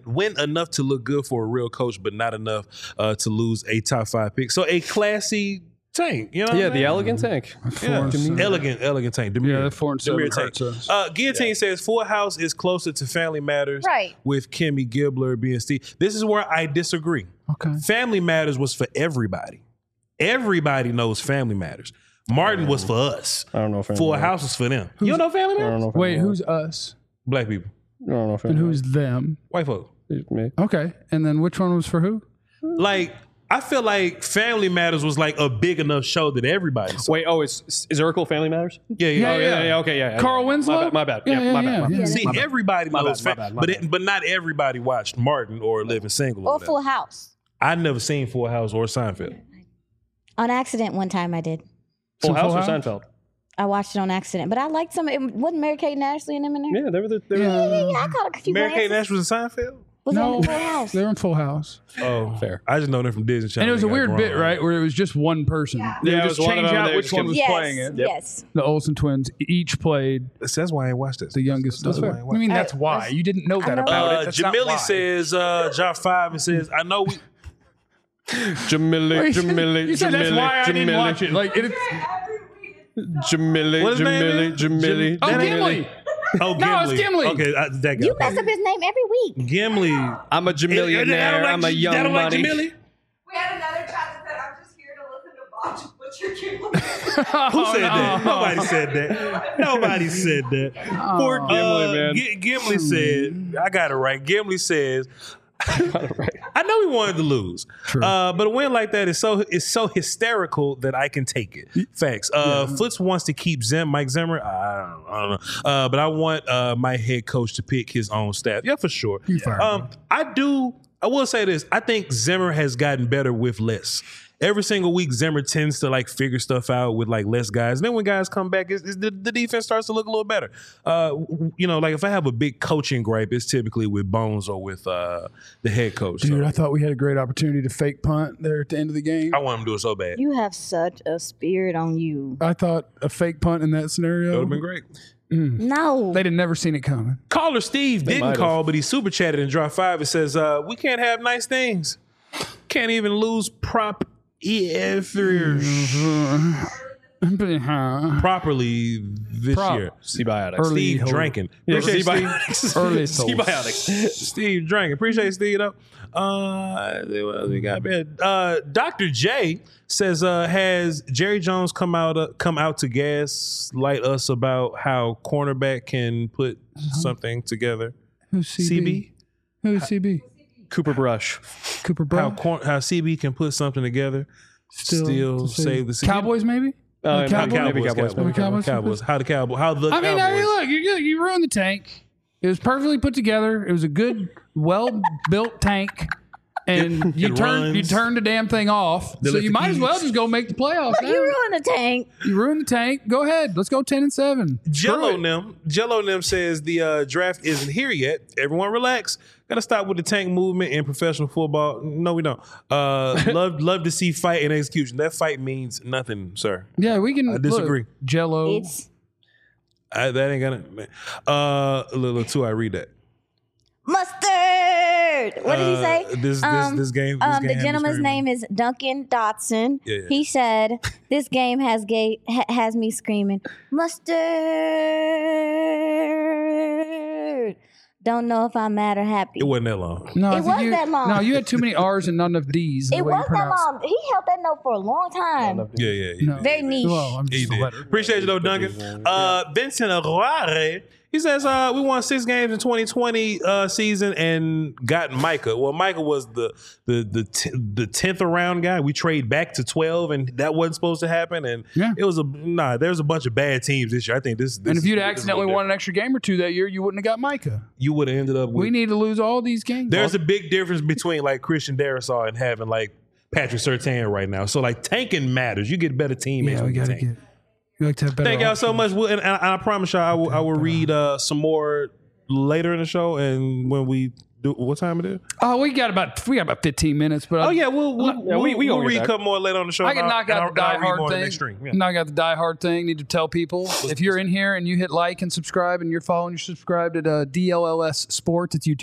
good for a real coach, but not enough to lose a top 5 pick. So a classy tank, you know? Yeah, what the I mean? elegant tank. Yeah. and Elegant tank. Demure. Yeah, that 4 and 7 Demure tank. hurts us. Guillotine says Full House is closer to Family Matters, Right. with Kimmy Gibbler being Steve. This is where I disagree. Okay. Family Matters was for everybody. Everybody knows Family Matters. Martin was for us. I don't know if Full House was for them. You don't know Family I Matters? don't know if Wait, who's us? Black people. I don't know if And who's them? White folks. me. Okay. And then which one was for who? Like, I feel like Family Matters was like a big enough show that everybody saw. Wait, is Urkel Family Matters? Yeah. Yeah. Okay, yeah. Carl Winslow? My bad. Yeah, my bad. yeah. See, everybody knows bad, my but not everybody watched Martin or Living Single. Or whatever. Full House. I never seen Full House or Seinfeld. On accident, one time I did. Full Some House Full or House? Seinfeld? I watched it on accident, but I liked some. It wasn't Mary Kate and Ashley and them in there. Yeah, they were Yeah, I caught a few Mary Kate glances. Nash was in Seinfeld? Was No, on Full House. they're in Full House. Oh, Fair. I just know them from Disney Channel. And it was a They got weird grown. bit, right? Where it was just one person. They Yeah, would it just was one change of them, out they which just one was Yes, playing it. yes. The Olsen twins each played That's why I ain't watched this. the youngest. That's daughter. why I ain't I watched mean, it. that's why. You didn't know that know. about it. That's not Jamili why. says, Job 5 and says, I know we. Jamili. You said that's why I didn't watch it. Like, Jamili. What's his name? Jamili. oh, Gimli. Oh, Gimli. No, it's Gimli. Okay, that guy. You mess up his name every week. Gimli. I'm a Jamillionaire. I'm a young money. We had another chat that said, I'm just here to listen to Bob Butcher King. Who said that? Nobody said that. Nobody said that. Poor Gimli, man. Gimli said, I got it right. Gimli says, I know we wanted to lose, but a win like that is so hysterical that I can take it. Facts. Foots wants to keep Mike Zimmer. I don't know, but I want my head coach to pick his own staff. Yeah, for sure. I will say this. I think Zimmer has gotten better with less. Every single week, Zimmer tends to like figure stuff out with like less guys. And then when guys come back, the defense starts to look a little better. Like if I have a big coaching gripe, it's typically with Bones or with the head coach. Dude, So I thought we had a great opportunity to fake punt there at the end of the game. I want him to do it so bad. You have such a spirit on you. I thought a fake punt in that That scenario. would have been great. No. They'd have never seen it coming. Caller Steve didn't might call, but he super chatted and dropped 5. It says, we can't have nice things. Can't even lose properly this year. Sebiotics. Early Steve hold. drinking. Yeah, Appreciate Steve. Sebiotics. Early Sebiotics. Steve drinking. Appreciate Steve though. What else we got, man? Dr. J says, has Jerry Jones come out to gaslight us about how cornerback can put something together? Who's CB? Who's CB? Cooper Brush. Cooper How Brown. how CB can put something together, still save the city. Cowboys, maybe. Maybe Cowboys. Cowboys. How the Cowboys? How the I mean, Cowboys? look, you ruined the tank. It was perfectly put together. It was a good, well-built tank, and you turned the damn thing off. So you might as well just go make the playoffs. You ruined the tank. You ruined the tank. Go ahead. Let's go 10-7. Jello Nem says the draft isn't here yet. Everyone relax. Gotta stop with the tank movement in professional football. No, we don't. Love to see fight and execution. That fight means nothing, sir. Yeah, we can. I disagree. Look, Jello. That ain't gonna. Little too. I read that. Mustard. What did he say? This game. The gentleman's name is Duncan Dotson. Yeah. He said, "This game has me screaming mustard. Don't know if I'm mad or happy." It wasn't that long. No, It was that long. No, you had too many R's and not enough D's. It was that long. He held that note for a long time. Yeah. No. Very niche. Well, I'm He just a did. letter. Appreciate you though, Duncan. Vincent Aguirre. He says we won 6 games in 2020 season and got Micah. Well, Micah was the 10th round guy. We trade back to 12, and that wasn't supposed to happen. And it was there's a bunch of bad teams this year. I think this. And if you'd accidentally won an extra game or two that year, you wouldn't have got Micah. you would have ended up with. We need to lose all these games. There's a big difference between like Christian Darrisaw and having like Patrick Surtain right now. So like tanking matters. You get better teammates. we when you got to tank. get. We like to have better. Thank y'all so much. And I promise y'all I will read some more later in the show. And when we do, what time it is? Oh, we got about 15 minutes. But We'll gonna read get a that. couple more later on the show. I can knock out the Die Hard The thing. next stream. Yeah. Knock out the Die Hard thing. Need to tell people if you're in here and you hit like and subscribe and you're following, you're subscribed at DLLS Sports. It's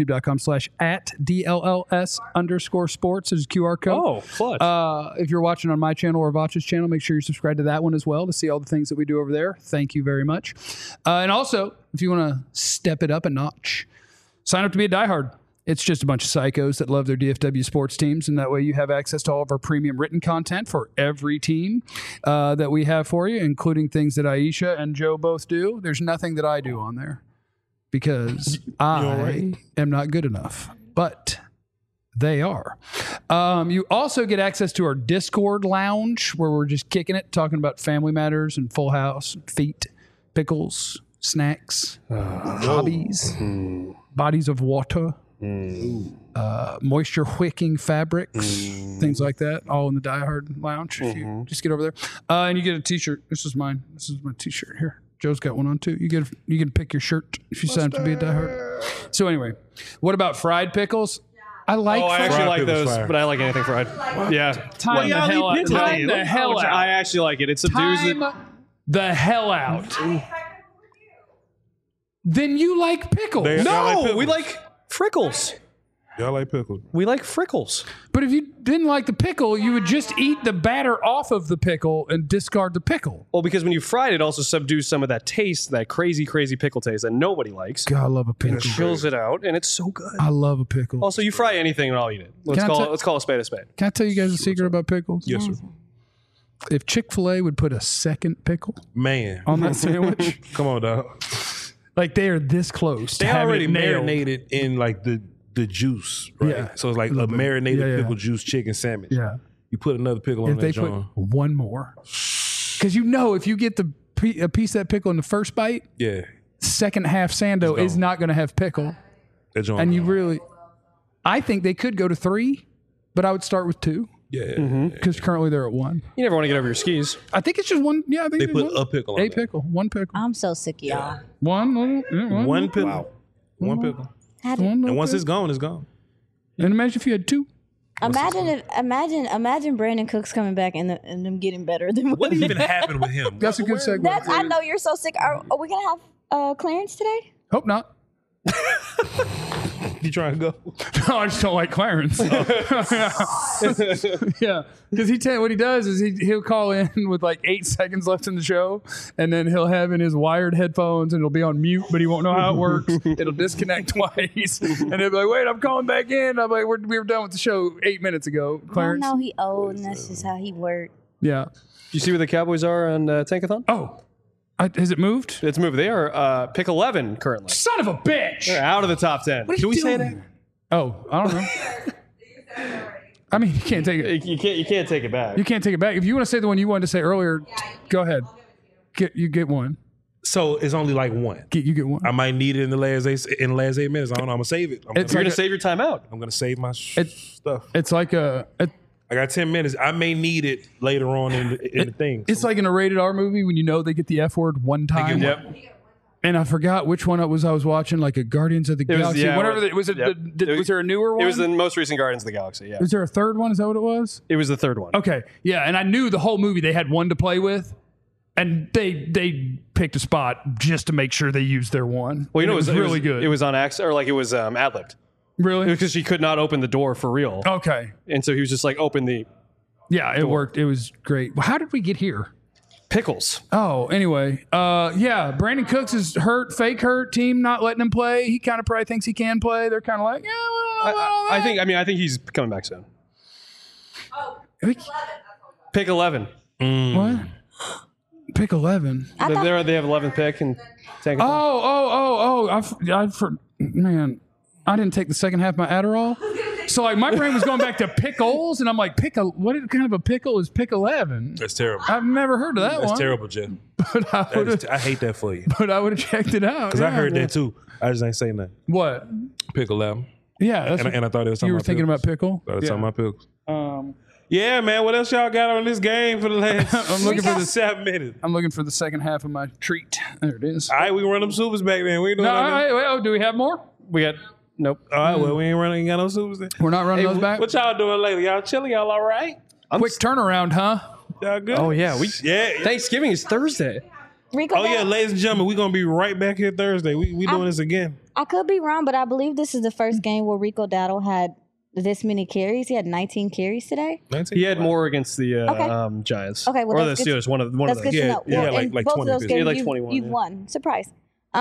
youtube.com/@DLLS_sports. There's a QR code. Oh, clutch. If you're watching on my channel or Vach's channel, make sure you're subscribed to that one as well to see all the things that we do over there. Thank you very much. And also, if you want to step it up a notch, sign up to be a diehard. It's just a bunch of psychos that love their DFW sports teams, and that way you have access to all of our premium written content for every team that we have for you, including things that Aisha and Joe both do. There's nothing that I do on there because I am not good enough, but they are. You also get access to our Discord lounge where we're just kicking it, talking about family matters and Full House, feet, pickles, snacks, hobbies, bodies of water. Moisture wicking fabrics, things like that, all in the Die Hard lounge. If you just get over there, and you get a T-shirt. This is mine. This is my T-shirt here. Joe's got one on too. You can pick your shirt if you sign up to be a Die Hard. So anyway, what about fried pickles? I like. I actually fried like pickles those, fire. but I like anything fried. Yeah, Time the hell out. Time the hell out. I actually like it. It subdues Time it. the hell out. Then you like pickles. Y'all like No, pickles? we like Frickles. Y'all like pickles. We like Frickles. But if you didn't like the pickle, you would just eat the batter off of the pickle and discard the pickle. Well, because when you fry it, it also subdues some of that taste, that crazy, crazy pickle taste that nobody likes. God, I love a pickle. It chills it out, and it's so good. I love a pickle. Also, you fry anything and I'll eat it. Let's Can I call a spade a spade. Can I tell you guys a secret about pickles? Yes, sir. If Chick-fil-A would put a second pickle Man. on that sandwich, Come on, dog. like they are this close. They to having already it nailed. marinated in like the juice, right? Yeah. So it's like a little bit. marinated Yeah, yeah. pickle juice chicken sandwich. Yeah. You put another pickle on If that they put joint. one more, because if you get a piece of that pickle in the first bite, Yeah. second half sando is not going to have pickle, That joint. and you really. I think they could go to 3, but I would start with 2 Yeah. because currently they're at 1. You never want to get over your skis. I think it's just one. Yeah, I think They it's put one. a pickle on A that. pickle, one pickle, I'm so sick of y'all. one One pickle. One pickle. How did- And once it's gone, it's gone. And imagine if you had 2. Imagine Brandon Cooks coming back and them getting better than What even happened with him? That's a good segue. That's. I know you're so sick. Are we gonna have Clarence today? Hope not. You trying to go? No, I just don't like Clarence. Yeah, because what he does is he'll call in with like 8 seconds left in the show, and then he'll have in his wired headphones, and it'll be on mute, but he won't know how it works. It'll disconnect twice, and he'll be like, "Wait, I'm calling back in." I'm like, "We were done with the show 8 minutes ago." I Clarence. know he old, and that's just how he worked. Yeah. You see where the Cowboys are on Tankathon? Oh, has it moved? It's moved. They are pick 11 currently. Son of a bitch! They're out of the top 10. What are Can you we say doing? Oh, I don't know. I mean, you can't take it. You can't take it back. You can't take it back. If you want to say the one you wanted to say earlier, go ahead. You get one. So it's only like one. You get one. I might need it in the last 8 minutes. I don't know. I'm gonna save it. You're gonna save your time out. I'm gonna save my stuff. It's like I got 10 minutes. I may need it later on in the thing. It's like in a rated R movie when you know they get the F word one time. Yep. And I forgot which one it was I was watching, like a Guardians of the Galaxy. Was there a newer one? It was the most recent Guardians of the Galaxy. Yeah. Was there a third one? Is that what it was? It was the third one. Okay. Yeah, and I knew the whole movie they had one to play with. And they picked a spot just to make sure they used their one. Well, it was really good. It was on accident, or like it was ad-libbed. Really? Because she could not open the door for real. Okay. And so he was just like, open the Yeah, it worked. It was great. How did we get here? pickles. Oh, anyway. Yeah, Brandon Cooks is hurt, fake hurt, team not letting him play. He kind of probably thinks he can play. They're kind of like, yeah, I think he's coming back soon. Pick 11. What? Pick 11. They have 11th pick and tank. Man, I didn't take the second half of my Adderall. So like my brain was going back to pickles, and I'm like, what kind of a pickle is pick 11? That's terrible. I've never heard of that one. That's terrible, Jeff. But I hate that for you. But I would have checked it out. Because I heard that too. I just ain't saying nothing. What? Pick 11. Yeah. And I thought it was talking you were about thinking pickles. about pickle? I was talking about pickles. Um, Yeah, man. What else y'all got on this game for the last I'm looking for the 7 minutes? I'm looking for the second half of my treat. There it is. All right, we can run them supers back then. We ain't doing No, nothing. wait, do we have more? We got nope. All right, well, we ain't got no supers then. We're not running Hey, those back? what y'all doing lately? Y'all chilling? Y'all all right? Quick turnaround, huh? Y'all good? Oh yeah, Yeah. Thanksgiving is Thursday. Rico, Oh yeah, ladies and gentlemen, we're gonna be right back here Thursday. We doing this again. I could be wrong, but I believe this is the first game where Rico Dowdle had this many carries. He had 19 carries today. 19? He had more against the Okay. Giants. Okay, well, or the that's good. Steelers. One of That's those. good to know. yeah, Well, like in both 20 of those picks. games, Yeah, like you've 21, you've yeah. won. Surprise.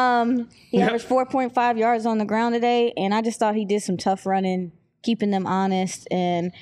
He averaged 4.5 yards on the ground today, and I just thought he did some tough running, keeping them honest, and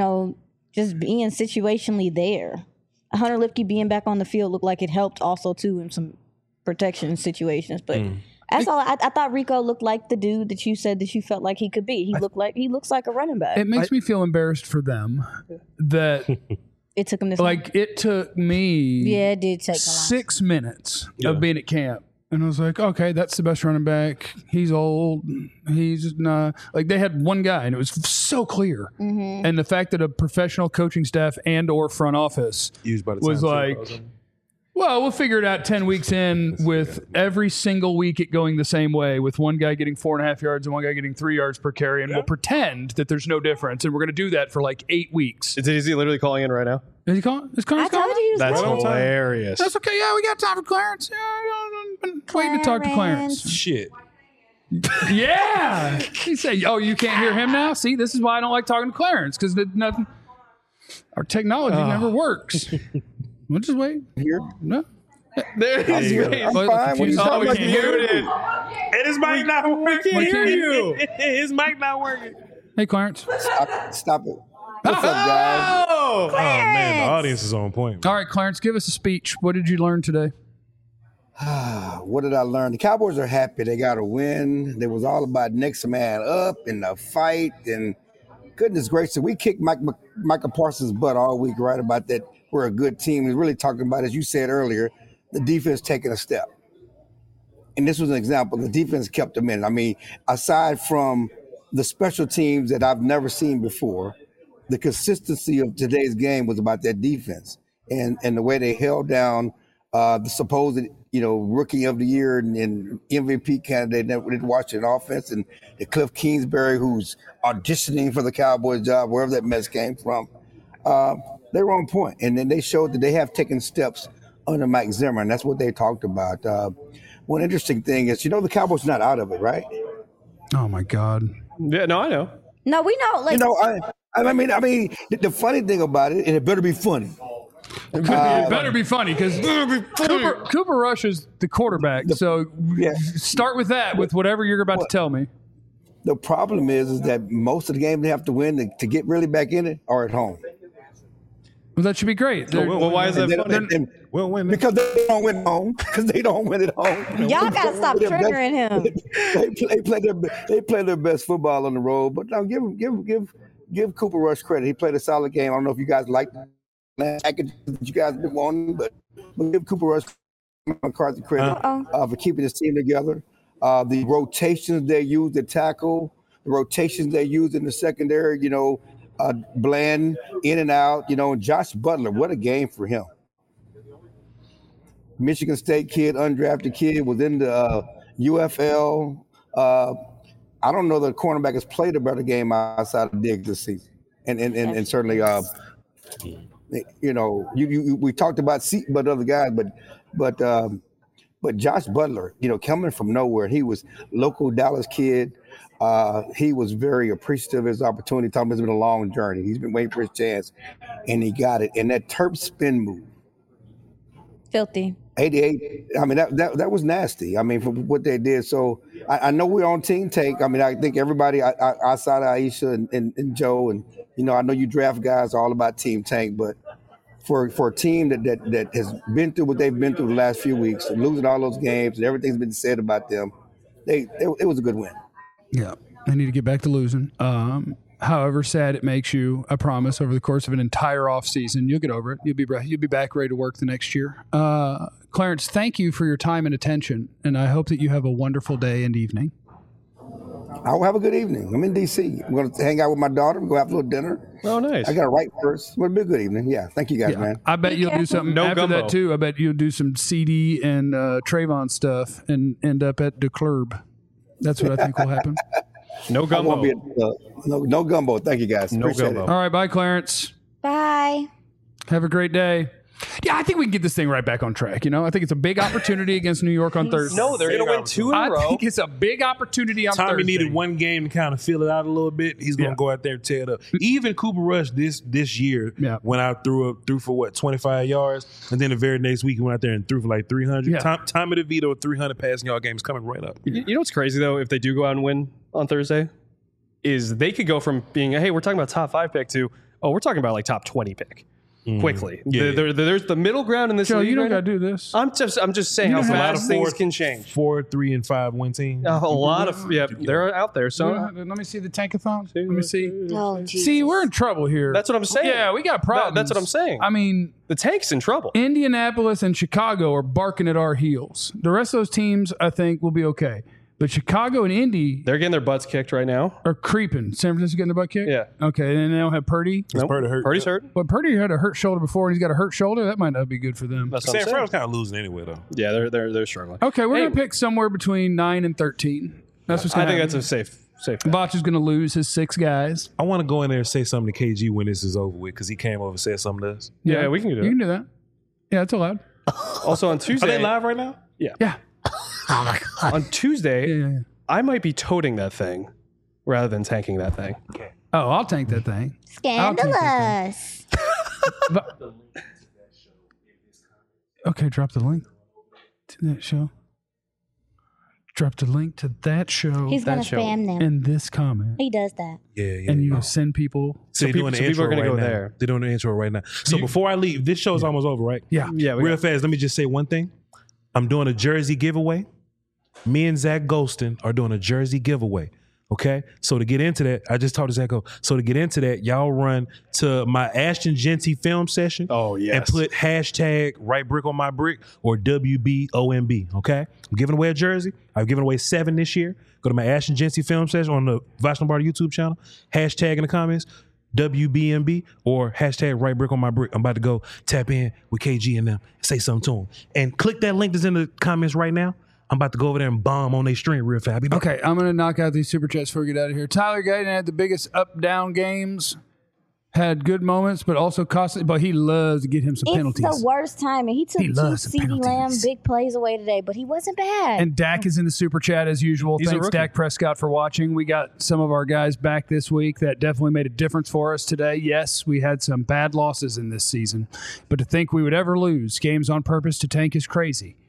just being situationally there. Hunter Lipke being back on the field looked like it helped also too in some protection situations, but. That's all. I thought Rico looked like the dude that you said that you felt like he could be. He looks like a running back. It makes me feel embarrassed for them that It took him this long. like it took me Yeah, it did take a long 6 minutes Yeah. of being at camp. And I was like, okay, that's the best running back. He's old. He's not like they had one guy, and it was so clear. Mm-hmm. And the fact that a professional coaching staff and or front office Used by the time was like, well, we'll figure it out 10 weeks in with every single week it going the same way, with one guy getting 4.5 yards and one guy getting 3 yards per carry, and we'll pretend that there's no difference, and we're going to do that for like 8 weeks. Is he literally calling in right now? Is he calling? Is Clarence I told calling? you he was That's good. hilarious. That's okay. Yeah, we got time for Clarence. Yeah, I've been waiting to talk to Clarence. shit. Yeah. He said, oh, you can't hear him now? See, this is why I don't like talking to Clarence, because our technology never works. We'll just wait. Here. No. There he is. I'm fine. What are you Oh, talking we about? can't hear Muted. And his mic not working. We can't hear you. His mic not working. Hey, Clarence. Stop it. What's up, guys? Oh man, the audience is on point. All right, Clarence, give us a speech. What did you learn today? What did I learn? The Cowboys are happy. They got a win. It was all about next man up and the fight. And goodness gracious, we kicked Micah Parsons' butt all week, right, about that we're a good team. He's really talking about, as you said earlier, the defense taking a step. And this was an example. The defense kept them in. I mean, aside from the special teams that I've never seen before, the consistency of today's game was about that defense and the way they held down the supposed, rookie of the year and MVP candidate that didn't watch an offense, and the Cliff Kingsbury, who's auditioning for the Cowboys job, wherever that mess came from. They were on point, and then they showed that they have taken steps under Mike Zimmer, and that's what they talked about. One interesting thing is, the Cowboys are not out of it, right? Oh, my God. Yeah, no, I know. No, we know. Like, I mean, the funny thing about it, and it better be funny. It better be funny because Cooper Rush is the quarterback. So start with that, with whatever you're about to tell me. The problem is that most of the games they have to win to get really back in it are at home. Well, that should be great. Well, why is that funny? We'll win. Because they don't win at home. Because they don't win at home. Y'all gotta stop triggering him. They play their best football on the road. But now give Cooper Rush credit. He played a solid game. I don't know if you guys like that package that you guys been wanting, but give Cooper Rush McCarthy credit for keeping his team together. The rotations they use to tackle, the rotations they use in the secondary, Bland in and out, Josh Butler, what a game for him. Michigan State kid, undrafted kid, was in the UFL. I don't know that the cornerback has played a better game outside of Diggs this season. And certainly, we talked about Seton, but other guys, but Josh Butler, coming from nowhere, he was local Dallas kid. He was very appreciative of his opportunity. Talking about it's been a long journey. He's been waiting for his chance, and he got it. And that Terp spin move, Filthy. 88. I mean, that was nasty. I mean, for what they did. So I know we're on Team Tank. I mean, I think everybody outside of Aisha and Joe, and I know you draft guys are all about Team Tank, but for a team that has been through what they've been through the last few weeks, and losing all those games, and everything's been said about them, it was a good win. Yeah, they need to get back to losing. However sad it makes you, I promise, over the course of an entire off season, you'll get over it. You'll be back ready to work the next year. Clarence, thank you for your time and attention, and I hope that you have a wonderful day and evening. I will have a good evening. I'm in D.C. I'm going to hang out with my daughter. We're going to have a little dinner. Oh, nice. I got to write first. It'll be a good evening. Yeah. Thank you guys, man. I bet you'll do something after that, too. I bet you'll do some CD and Trayvon stuff and end up at the club. That's what I think will happen. No gumbo. No gumbo. Thank you, guys. No Appreciate gumbo. it. All right. Bye, Clarence. Bye. Have a great day. Yeah, I think we can get this thing right back on track. I think it's a big opportunity against New York on Thursday. No, they're going to win 2 in a row. I think it's a big opportunity on Tommy Thursday. needed one game to kind of fill it out a little bit. He's going to go out there and tear it up. Even Cooper Rush this year went out threw for 25 yards, and then the very next week he went out there and threw for like 300. Yeah. Tommy DeVito 300 passing yard games coming right up. You know what's crazy though? If they do go out and win on Thursday, is they could go from being hey, we're talking about top 5 pick to we're talking about like top 20 pick. Quickly. There's the middle ground in this Joe, league. you don't right got to do this. I'm just saying how fast things can change. 4, 3, and 5 win team. A lot of they're out there. So Let me see the tankathon. Let me see. Oh, See, we're in trouble here. that's what I'm saying. Yeah, we got problems. That's what I'm saying. I mean, The Tank's in trouble. Indianapolis and Chicago are barking at our heels. The rest of those teams, I think, will be okay. But Chicago and Indy They're getting their butts kicked right now. are creeping. San Francisco getting their butt kicked? Yeah. Okay, and they don't have Purdy. Nope. Purdy hurt. Purdy's hurt. But Purdy had a hurt shoulder before, and he's got a hurt shoulder. That might not be good for them. That's what San I'm saying. Francisco's kind of losing anyway, though. Yeah, they're struggling. Okay, we're going to pick somewhere between 9 and 13. That's what's I going to think happen. that's a safe. Botch is going to lose his 6 guys. I want to go in there and say something to KG when this is over with because he came over and said something to us. Yeah, we can do You that. can do that. Yeah, that's allowed. Also on Tuesday. Are they live right now? Yeah. On Tuesday, Yeah. I might be toting that thing rather than tanking that thing. Oh, I'll tank that thing. Scandalous. Okay, drop the link to that show. Drop the link to that show. He's going to show. spam them. in this comment. He does that. Yeah. And you send people. So they're doing the people intro are gonna right go now. there. They're doing the intro right now. So before I leave, this show's almost over, right? Yeah. Yeah, Real fast, let me just say one thing. I'm doing a jersey giveaway. Me and Zach Golston are doing a jersey giveaway. Okay? So to get into that, I just talked to Zach. So to get into that, y'all run to my Ashton Genty film session. Oh, yes. And put hashtag right brick on my brick or WBOMB. Okay? I'm giving away a jersey. I've given away 7 this year. Go to my Ashton Genty film session on the Voch Lombardi YouTube channel. Hashtag in the comments. WBMB or hashtag right brick on my brick. I'm about to go tap in with KG and them and say something to them. And click that link that's in the comments right now. I'm about to go over there and bomb on their stream real fast. I'll be back. Okay, I'm going to knock out these super chats before we get out of here. Tyler Gayton had the biggest up-down games, had good moments, but also costly. But he loves to get him some penalties. It's the worst time. And he took He 2 loves the CeeDee Lamb penalties. big plays away today, but he wasn't bad. And Dak is in the super chat as usual. He's a Thanks, rookie. Dak Prescott, for watching. We got some of our guys back this week. That definitely made a difference for us today. Yes, we had some bad losses in this season, but to think we would ever lose games on purpose to tank is crazy.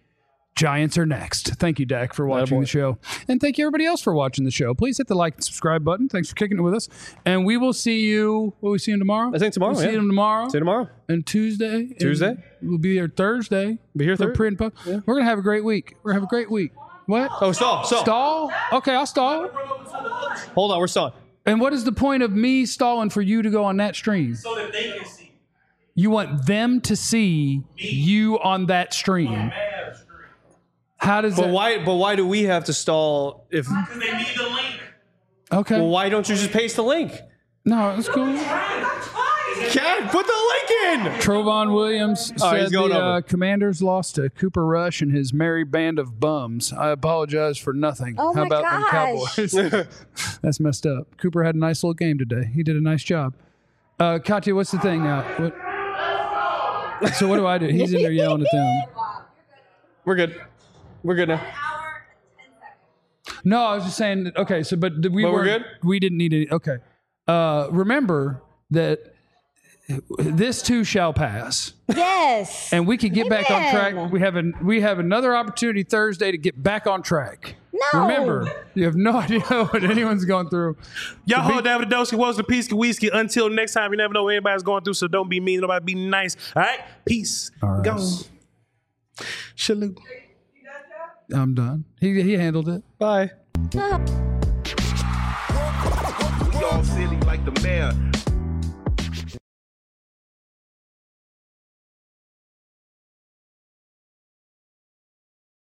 Giants are next. Thank you, Dak, for watching the show. And thank you, everybody else, for watching the show. Please hit the like and subscribe button. Thanks for kicking it with us. And we will see you. Will we see him tomorrow? I think tomorrow. We'll see him tomorrow. See you tomorrow. And Tuesday. Tuesday? And we'll be here Thursday. Be here for pre and post. Yeah. We're going to have a great week. We're going to have a great week. What? Oh, stall. Stall? Okay, I'll stall. Hold on, we're stalling. And what is the point of me stalling for you to go on that stream? So that they can see. You want them to see you on that stream. How does that? But why do we have to stall if? Because they need the link. Okay. Well, why don't you just paste the link? No, it's cool. Cat, put the link in. Trovon Williams said the Commanders lost to Cooper Rush and his merry band of bums. I apologize for nothing. Oh How my about them gosh. Cowboys? That's messed up. Cooper had a nice little game today. He did a nice job. Katya, what's the thing now? So what do I do? He's in there yelling at them. We're good. We're good now. No, I was just saying. Okay, so but we're good. We didn't need any. Okay, remember that this too shall pass. Yes. And we can get back on track. Amen. We have another opportunity Thursday to get back on track. No. Remember, you have no idea what anyone's going through. Y'all hold down with the Dosey Woes, the Peace Whiskey. Until next time, you never know what anybody's going through, so don't be mean. Nobody be nice. All right? Peace. All right. Go. Salute. I'm done. He handled it. Bye. We all silly like the mayor.